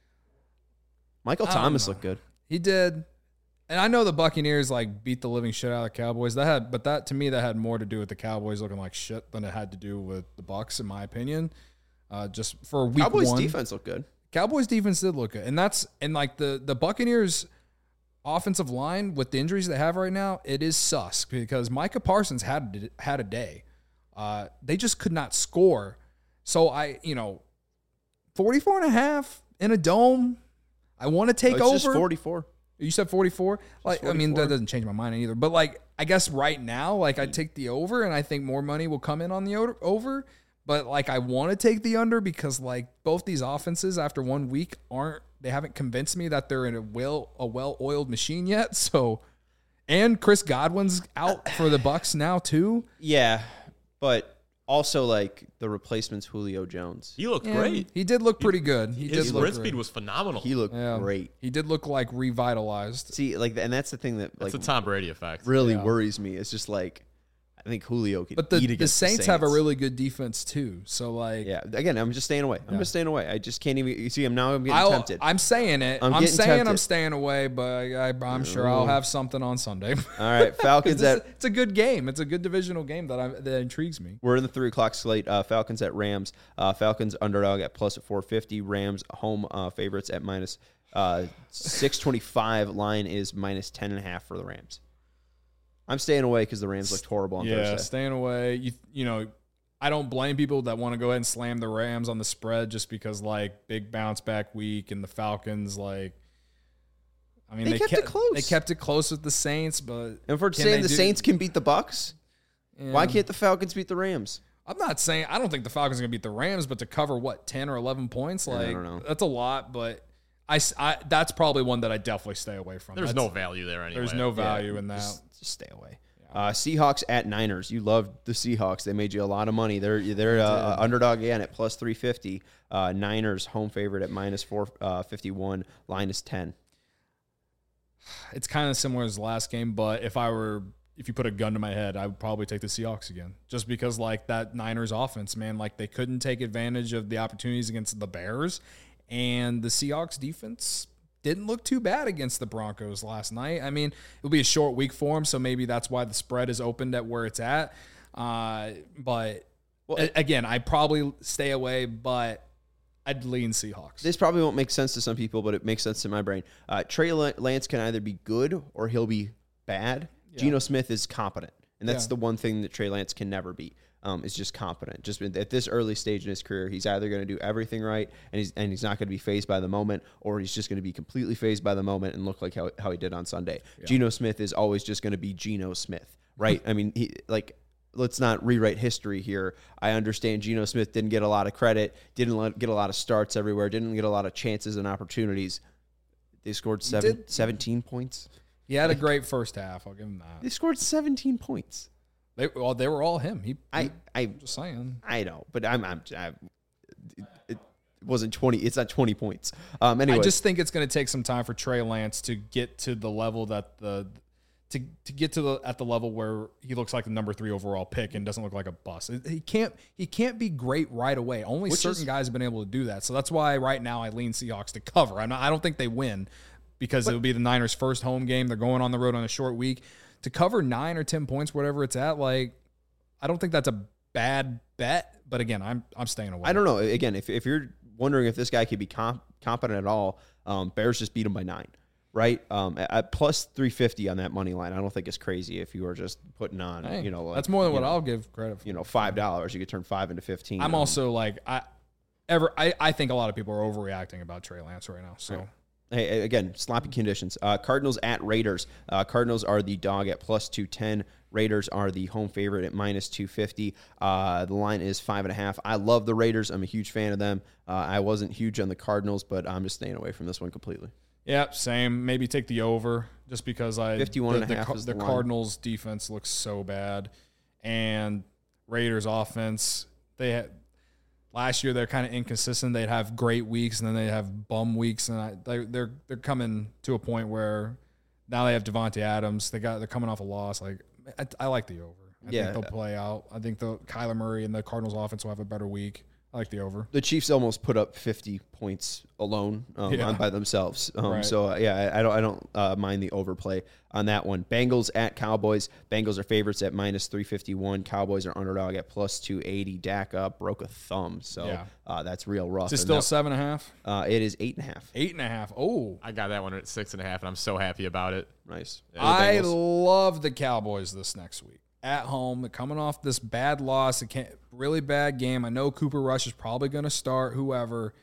Speaker 1: Michael
Speaker 2: I don't
Speaker 1: Thomas
Speaker 2: know.
Speaker 1: looked good.
Speaker 2: He did. And I know the Buccaneers like beat the living shit out of the Cowboys. That had, but that to me that had more to do with the Cowboys looking like shit than it had to do with the Bucks, in my opinion. Uh, just for week
Speaker 1: Cowboys
Speaker 2: one,
Speaker 1: defense looked good.
Speaker 2: Cowboys defense did look good, and that's and like the the Buccaneers offensive line with the injuries they have right now, it is sus because Micah Parsons had had a day. Uh, they just could not score. So I, you know, forty-four and a half in a dome. I want to take
Speaker 1: Oh, it's
Speaker 2: over.
Speaker 1: just forty-four.
Speaker 2: You said forty-four? Like, I mean,
Speaker 1: forty-four.
Speaker 2: that doesn't change my mind either. But, like, I guess right now, like, I'd take the over, and I think more money will come in on the o- over. But, like, I want to take the under because, like, both these offenses after one week aren't, they haven't convinced me that they're in a well, a well-oiled machine yet. So, and Chris Godwin's out for the Bucks now, too.
Speaker 1: Yeah, but also like the replacement's Julio Jones.
Speaker 3: He looked
Speaker 2: And
Speaker 3: great.
Speaker 2: He did look pretty good. He
Speaker 3: His
Speaker 2: did look
Speaker 3: sprint
Speaker 2: great.
Speaker 3: speed was phenomenal.
Speaker 1: He looked
Speaker 2: Yeah.
Speaker 1: great.
Speaker 2: He did look, like, revitalized.
Speaker 1: See, like, and that's the thing that
Speaker 3: That's
Speaker 1: like
Speaker 3: the Tom Brady effect.
Speaker 1: really
Speaker 2: Yeah.
Speaker 1: worries me. It's just like I think Julio could
Speaker 2: But the,
Speaker 1: eat
Speaker 2: the
Speaker 1: against
Speaker 2: Saints,
Speaker 1: the
Speaker 2: have a really good defense, too. So, like,
Speaker 1: Yeah, again, I'm just staying away. I'm
Speaker 2: Yeah.
Speaker 1: just staying away. I just can't even. You see, I'm now. I'm getting
Speaker 2: I'll,
Speaker 1: tempted.
Speaker 2: I'm saying it.
Speaker 1: I'm
Speaker 2: I'm,
Speaker 1: getting
Speaker 2: saying I'm
Speaker 1: tempted.
Speaker 2: staying away, but I, I, I'm sure I'll have something on Sunday.
Speaker 1: All right, Falcons
Speaker 2: This-
Speaker 1: at.
Speaker 2: it's a good game. It's a good divisional game that I, that intrigues me.
Speaker 1: We're in the three o'clock slate. Uh, Falcons at Rams. Uh, Falcons underdog at plus four fifty. Rams home uh, favorites at minus uh, six twenty-five. Line is minus ten and a half for the Rams. I'm staying away because the Rams looked horrible on
Speaker 2: Yeah,
Speaker 1: Thursday.
Speaker 2: staying away. You you know, I don't blame people that want to go ahead and slam the Rams on the spread just because like big bounce back week and the Falcons like. I mean,
Speaker 1: They
Speaker 2: they,
Speaker 1: kept it close.
Speaker 2: They kept it close with the Saints, but
Speaker 1: And for
Speaker 2: can
Speaker 1: saying
Speaker 2: they
Speaker 1: the
Speaker 2: do-
Speaker 1: Saints can beat the Bucks, why
Speaker 2: Yeah.
Speaker 1: can't the Falcons beat the Rams?
Speaker 2: I'm not saying I don't think the Falcons are going to beat the Rams, but to cover what ten or eleven points,
Speaker 1: I
Speaker 2: like
Speaker 1: don't know.
Speaker 2: that's a lot. But I, s- I- that's probably one that I definitely stay away from.
Speaker 3: There's
Speaker 2: That's-
Speaker 3: no value there anyway.
Speaker 2: there's no value in that.
Speaker 1: Just, just stay away. Uh, Seahawks at Niners. You love the Seahawks. They made you a lot of money. They're they're uh, underdog again at plus three fifty. Uh, Niners home favorite at minus four fifty one. Line is ten.
Speaker 2: It's kind of similar as the last game, but if I were if you put a gun to my head, I would probably take the Seahawks again, just because like that Niners offense, man, like they couldn't take advantage of the opportunities against the Bears, and the Seahawks defense didn't look too bad against the Broncos last night. I mean, it'll be a short week for them, so maybe that's why the spread is opened at where it's at. Uh, but
Speaker 1: Well,
Speaker 2: a- again, I probably stay away, but I'd lean Seahawks.
Speaker 1: This probably won't make sense to some people, but it makes sense to my brain. Uh, Trey Lance can either be good or he'll be bad.
Speaker 2: Yeah.
Speaker 1: Geno Smith is competent, and that's
Speaker 2: Yeah.
Speaker 1: the one thing that Trey Lance can never be. Um, is just competent. Just at this early stage in his career, he's either going to do everything right, and he's and he's not going to be phased by the moment, or he's just going to be completely phased by the moment and look like how, how he did on Sunday.
Speaker 2: Yeah.
Speaker 1: Geno Smith is always just going to be Geno Smith, right? I mean, he like. Let's not rewrite history here. I understand Geno Smith didn't get a lot of credit, didn't let, get a lot of starts everywhere, didn't get a lot of chances and opportunities. They scored seven,
Speaker 2: did-
Speaker 1: seventeen points.
Speaker 2: He had a great first half. I'll give him that.
Speaker 1: They scored seventeen points.
Speaker 2: They, well, they were all him. He,
Speaker 1: I,
Speaker 2: he
Speaker 1: I,
Speaker 2: just saying.
Speaker 1: I know, but I'm, I'm, I, it, it wasn't twenty. It's not twenty points. Um, anyway,
Speaker 2: I just think it's going to take some time for Trey Lance to get to the level that the to to get to the at the level where he looks like the number three overall pick and doesn't look like a bust. He can't he can't be great right away. Only Which certain is, guys have been able to do that. So that's why right now I lean Seahawks to cover. I'm not, I don't think they win because it would be the Niners' first home game. They're going on the road on a short week. To cover nine or ten points, whatever it's at, like I don't think that's a bad bet. But again, I'm I'm staying away.
Speaker 1: I don't know. Again, if if you're wondering if this guy could be comp, competent at all, um, Bears just beat him by nine. Right, um, at, at plus three fifty on that money line, I don't think it's crazy. If you were just putting on,
Speaker 2: hey,
Speaker 1: you know, like,
Speaker 2: that's more than what
Speaker 1: know,
Speaker 2: I'll give credit for.
Speaker 1: You know, five dollars, you could turn five into fifteen.
Speaker 2: I'm
Speaker 1: um,
Speaker 2: also like, I ever, I, I think a lot of people are overreacting about Trey Lance right now. So,
Speaker 1: right. Hey, again, sloppy conditions. Uh, Cardinals at Raiders. Uh, Cardinals are the dog at plus two ten. Raiders are the home favorite at minus two fifty. Uh, the line is five and a half. I love the Raiders. I'm a huge fan of them. Uh, I wasn't huge on the Cardinals, but I'm just staying away from this one completely.
Speaker 2: Yeah, same. Maybe take the over just because I
Speaker 1: fifty-one
Speaker 2: the,
Speaker 1: and a half
Speaker 2: the,
Speaker 1: is
Speaker 2: the,
Speaker 1: the
Speaker 2: Cardinals defense looks so bad, and Raiders offense. They had last year they're kind of inconsistent. They'd have great weeks and then they have bum weeks, and I, they, they're they're coming to a point where now they have Devontae Adams. They got they're coming off a loss. Like I, I like the over. I
Speaker 1: yeah,
Speaker 2: think they'll play out. I think the Kyler Murray and the Cardinals offense will have a better week. I like the over.
Speaker 1: The Chiefs almost put up fifty points alone um,
Speaker 2: yeah.
Speaker 1: on, by themselves. Um,
Speaker 2: right.
Speaker 1: So uh, yeah, I, I don't I don't uh, mind the overplay on that one. Bengals at Cowboys. Bengals are favorites at minus three fifty one. Cowboys are underdog at plus two eighty. Dak up broke a thumb, so
Speaker 2: yeah.
Speaker 1: uh, that's real rough.
Speaker 2: Is it still
Speaker 1: that,
Speaker 2: seven and a half?
Speaker 1: Uh, it is eight and a half.
Speaker 2: Eight and a half. Oh,
Speaker 3: I got that one at six and a half, and I'm so happy about it.
Speaker 1: Nice.
Speaker 3: Yeah.
Speaker 2: I love the Cowboys this next week. At home, coming off this bad loss, a really bad game. I know Cooper Rush is probably going to start. Whoever,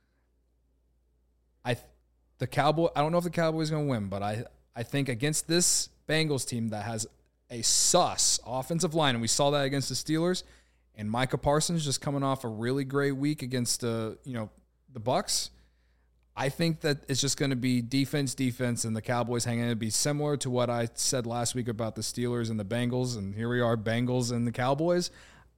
Speaker 2: I, the Cowboy. I don't know if the Cowboys are going to win, but I, I think against this Bengals team that has a sus offensive line, and we saw that against the Steelers, and Micah Parsons just coming off a really great week against the, you know, the Bucs. I think that it's just going to be defense, defense, and the Cowboys hanging. It'd be similar to what I said last week about the Steelers and the Bengals, and here we are, Bengals and the Cowboys.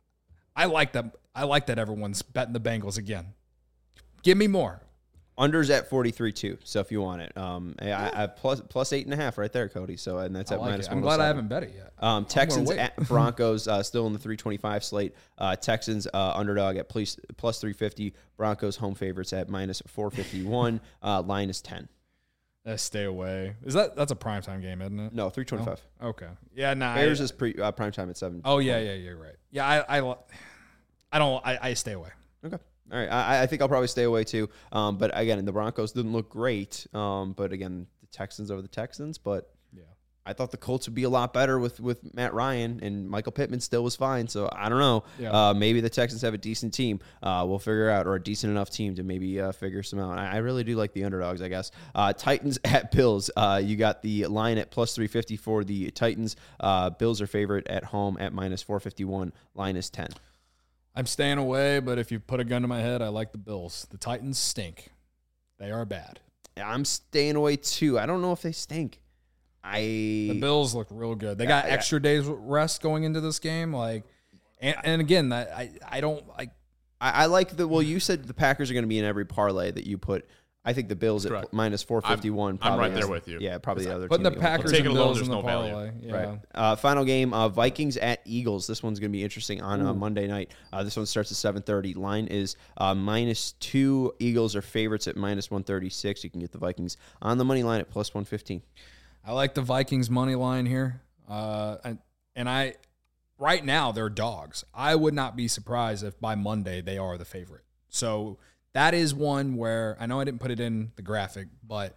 Speaker 2: I like that. I like that everyone's betting the Bengals again. Give me more.
Speaker 1: Unders at forty-three too. So if you want it, um, I, I plus plus eight and a half right there, Cody. So and that's
Speaker 2: I
Speaker 1: at
Speaker 2: like
Speaker 1: minus.
Speaker 2: I'm glad I haven't bet it yet.
Speaker 1: Um, Texans at Broncos uh, still in the three twenty-five slate. Uh, Texans uh, underdog at plus plus three fifty. Broncos home favorites at minus four fifty-one. uh, line is ten.
Speaker 2: Uh, stay away. Is that that's a primetime game, isn't it?
Speaker 1: No, three twenty-five.
Speaker 2: Oh, okay. Yeah, nah.
Speaker 1: Bears
Speaker 2: I,
Speaker 1: is pre uh, primetime at seven.
Speaker 2: Oh yeah, yeah, you're right. Yeah, I I, I don't. I, I stay away.
Speaker 1: Okay. All right, I, I think I'll probably stay away too. Um, but again, the Broncos didn't look great. Um, but again, the Texans over the Texans. But
Speaker 2: yeah,
Speaker 1: I thought the Colts would be a lot better with, with Matt Ryan, and Michael Pittman still was fine. So I don't know.
Speaker 2: Yeah.
Speaker 1: Uh, maybe the Texans have a decent team. Uh, we'll figure out, or a decent enough team to maybe uh, figure some out. I, I really do like the underdogs, I guess. Uh, Titans at Bills. Uh, you got the line at plus three fifty for the Titans. Uh, Bills are favorite at home at minus four fifty-one. Line is ten.
Speaker 2: I'm staying away, but if you put a gun to my head, I like the Bills. The Titans stink. They are bad.
Speaker 1: I'm staying away too. I don't know if they stink. I
Speaker 2: the Bills look real good. They got
Speaker 1: yeah,
Speaker 2: extra days rest going into this game. Like, and, and again, that I I don't like.
Speaker 1: I, I like the well. You said the Packers are going to be in every parlay that you put. I think the Bills
Speaker 3: Correct.
Speaker 1: at minus four fifty-one.
Speaker 3: I'm, I'm right
Speaker 1: is,
Speaker 3: there with you.
Speaker 1: Yeah, probably the other.
Speaker 2: Putting the
Speaker 1: team you want to
Speaker 2: Packers
Speaker 1: play.
Speaker 3: Take it
Speaker 2: and
Speaker 3: alone,
Speaker 2: Bills in
Speaker 3: there's
Speaker 2: the
Speaker 3: no value.
Speaker 2: parlay. Yeah.
Speaker 1: Right. Uh, final game: uh, Vikings at Eagles. This one's going to be interesting on uh, Monday night. Uh, this one starts at seven thirty. Line is uh, minus two. Eagles are favorites at minus one thirty-six. You can get the Vikings on the money line at plus one fifteen.
Speaker 2: I like the Vikings money line here. Uh, and, and I, right now, they're dogs. I would not be surprised if by Monday they are the favorite. So that is one where I know I didn't put it in the graphic, but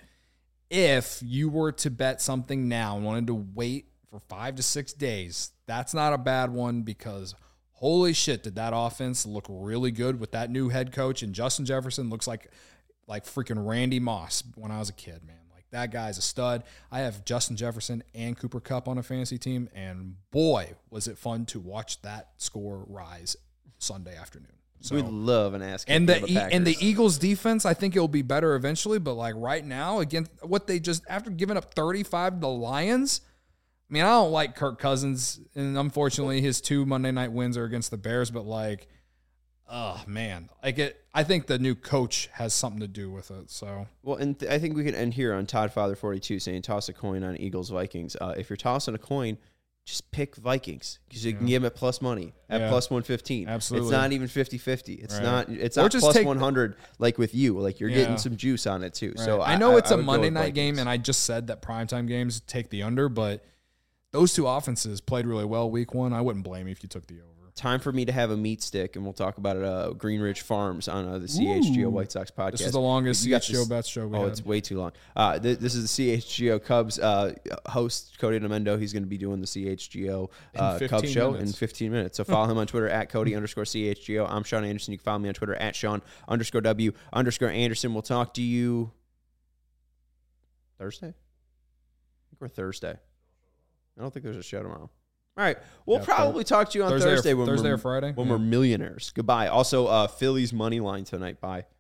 Speaker 2: if you were to bet something now and wanted to wait for five to six days, that's not a bad one because holy shit, did that offense look really good with that new head coach, and Justin Jefferson looks like like freaking Randy Moss when I was a kid, man. That guy's a stud. I have Justin Jefferson and Cooper Kupp on a fantasy team, and boy, was it fun to watch that score rise Sunday afternoon. So,
Speaker 1: we love an ass
Speaker 2: and the,
Speaker 1: the
Speaker 2: e- and the Eagles defense, I think it'll be better eventually. But like right now, against what they just after giving up thirty-five to the Lions, I mean, I don't like Kirk Cousins, and unfortunately, his two Monday night wins are against the Bears. But like, Oh man, like it. I think the new coach has something to do with it. So
Speaker 1: Well, and th- I think we can end here on Todd Father forty-two saying toss a coin on Eagles Vikings. Uh, if you're tossing a coin, just pick Vikings because you can get them at plus money at
Speaker 2: Yeah.
Speaker 1: plus one fifteen.
Speaker 2: Absolutely.
Speaker 1: It's not even fifty-fifty. It's
Speaker 2: Right.
Speaker 1: not. It's
Speaker 2: Or
Speaker 1: not
Speaker 2: just
Speaker 1: plus
Speaker 2: take-
Speaker 1: one hundred like with you. Like you're
Speaker 2: Yeah.
Speaker 1: getting some juice on it too. So
Speaker 2: I know it's
Speaker 1: a
Speaker 2: a Monday night game, and I just said that primetime games take the under, but those two offenses played really well week one. I wouldn't blame you if you took the over.
Speaker 1: Time for me to have a meat stick, and we'll talk about it. Uh, Green Ridge Farms on uh, the C H G O
Speaker 2: Ooh.
Speaker 1: White Sox podcast.
Speaker 2: This is the longest
Speaker 1: You got
Speaker 2: C H G O
Speaker 1: this-
Speaker 2: Bets show we
Speaker 1: Oh,
Speaker 2: had.
Speaker 1: it's way too long. Uh, th- this is the C H G O Cubs uh, host, Cody Namendo. He's going to be doing the C H G O uh,
Speaker 2: In
Speaker 1: Cubs
Speaker 2: fifteen
Speaker 1: show
Speaker 2: minutes.
Speaker 1: in fifteen minutes. So follow him on Twitter at Cody underscore C H G O. I'm Sean Anderson. You can follow me on Twitter at Sean underscore W underscore Anderson. We'll talk to you Thursday? I think we're Thursday. I don't think there's a show tomorrow. All right. We'll
Speaker 2: Yeah,
Speaker 1: probably talk to you on
Speaker 2: Thursday or-
Speaker 1: Thursday, when,
Speaker 2: Thursday
Speaker 1: we're,
Speaker 2: or Friday?
Speaker 1: when
Speaker 2: Yeah.
Speaker 1: we're millionaires. Goodbye. Also, uh, Phillies money line tonight. Bye.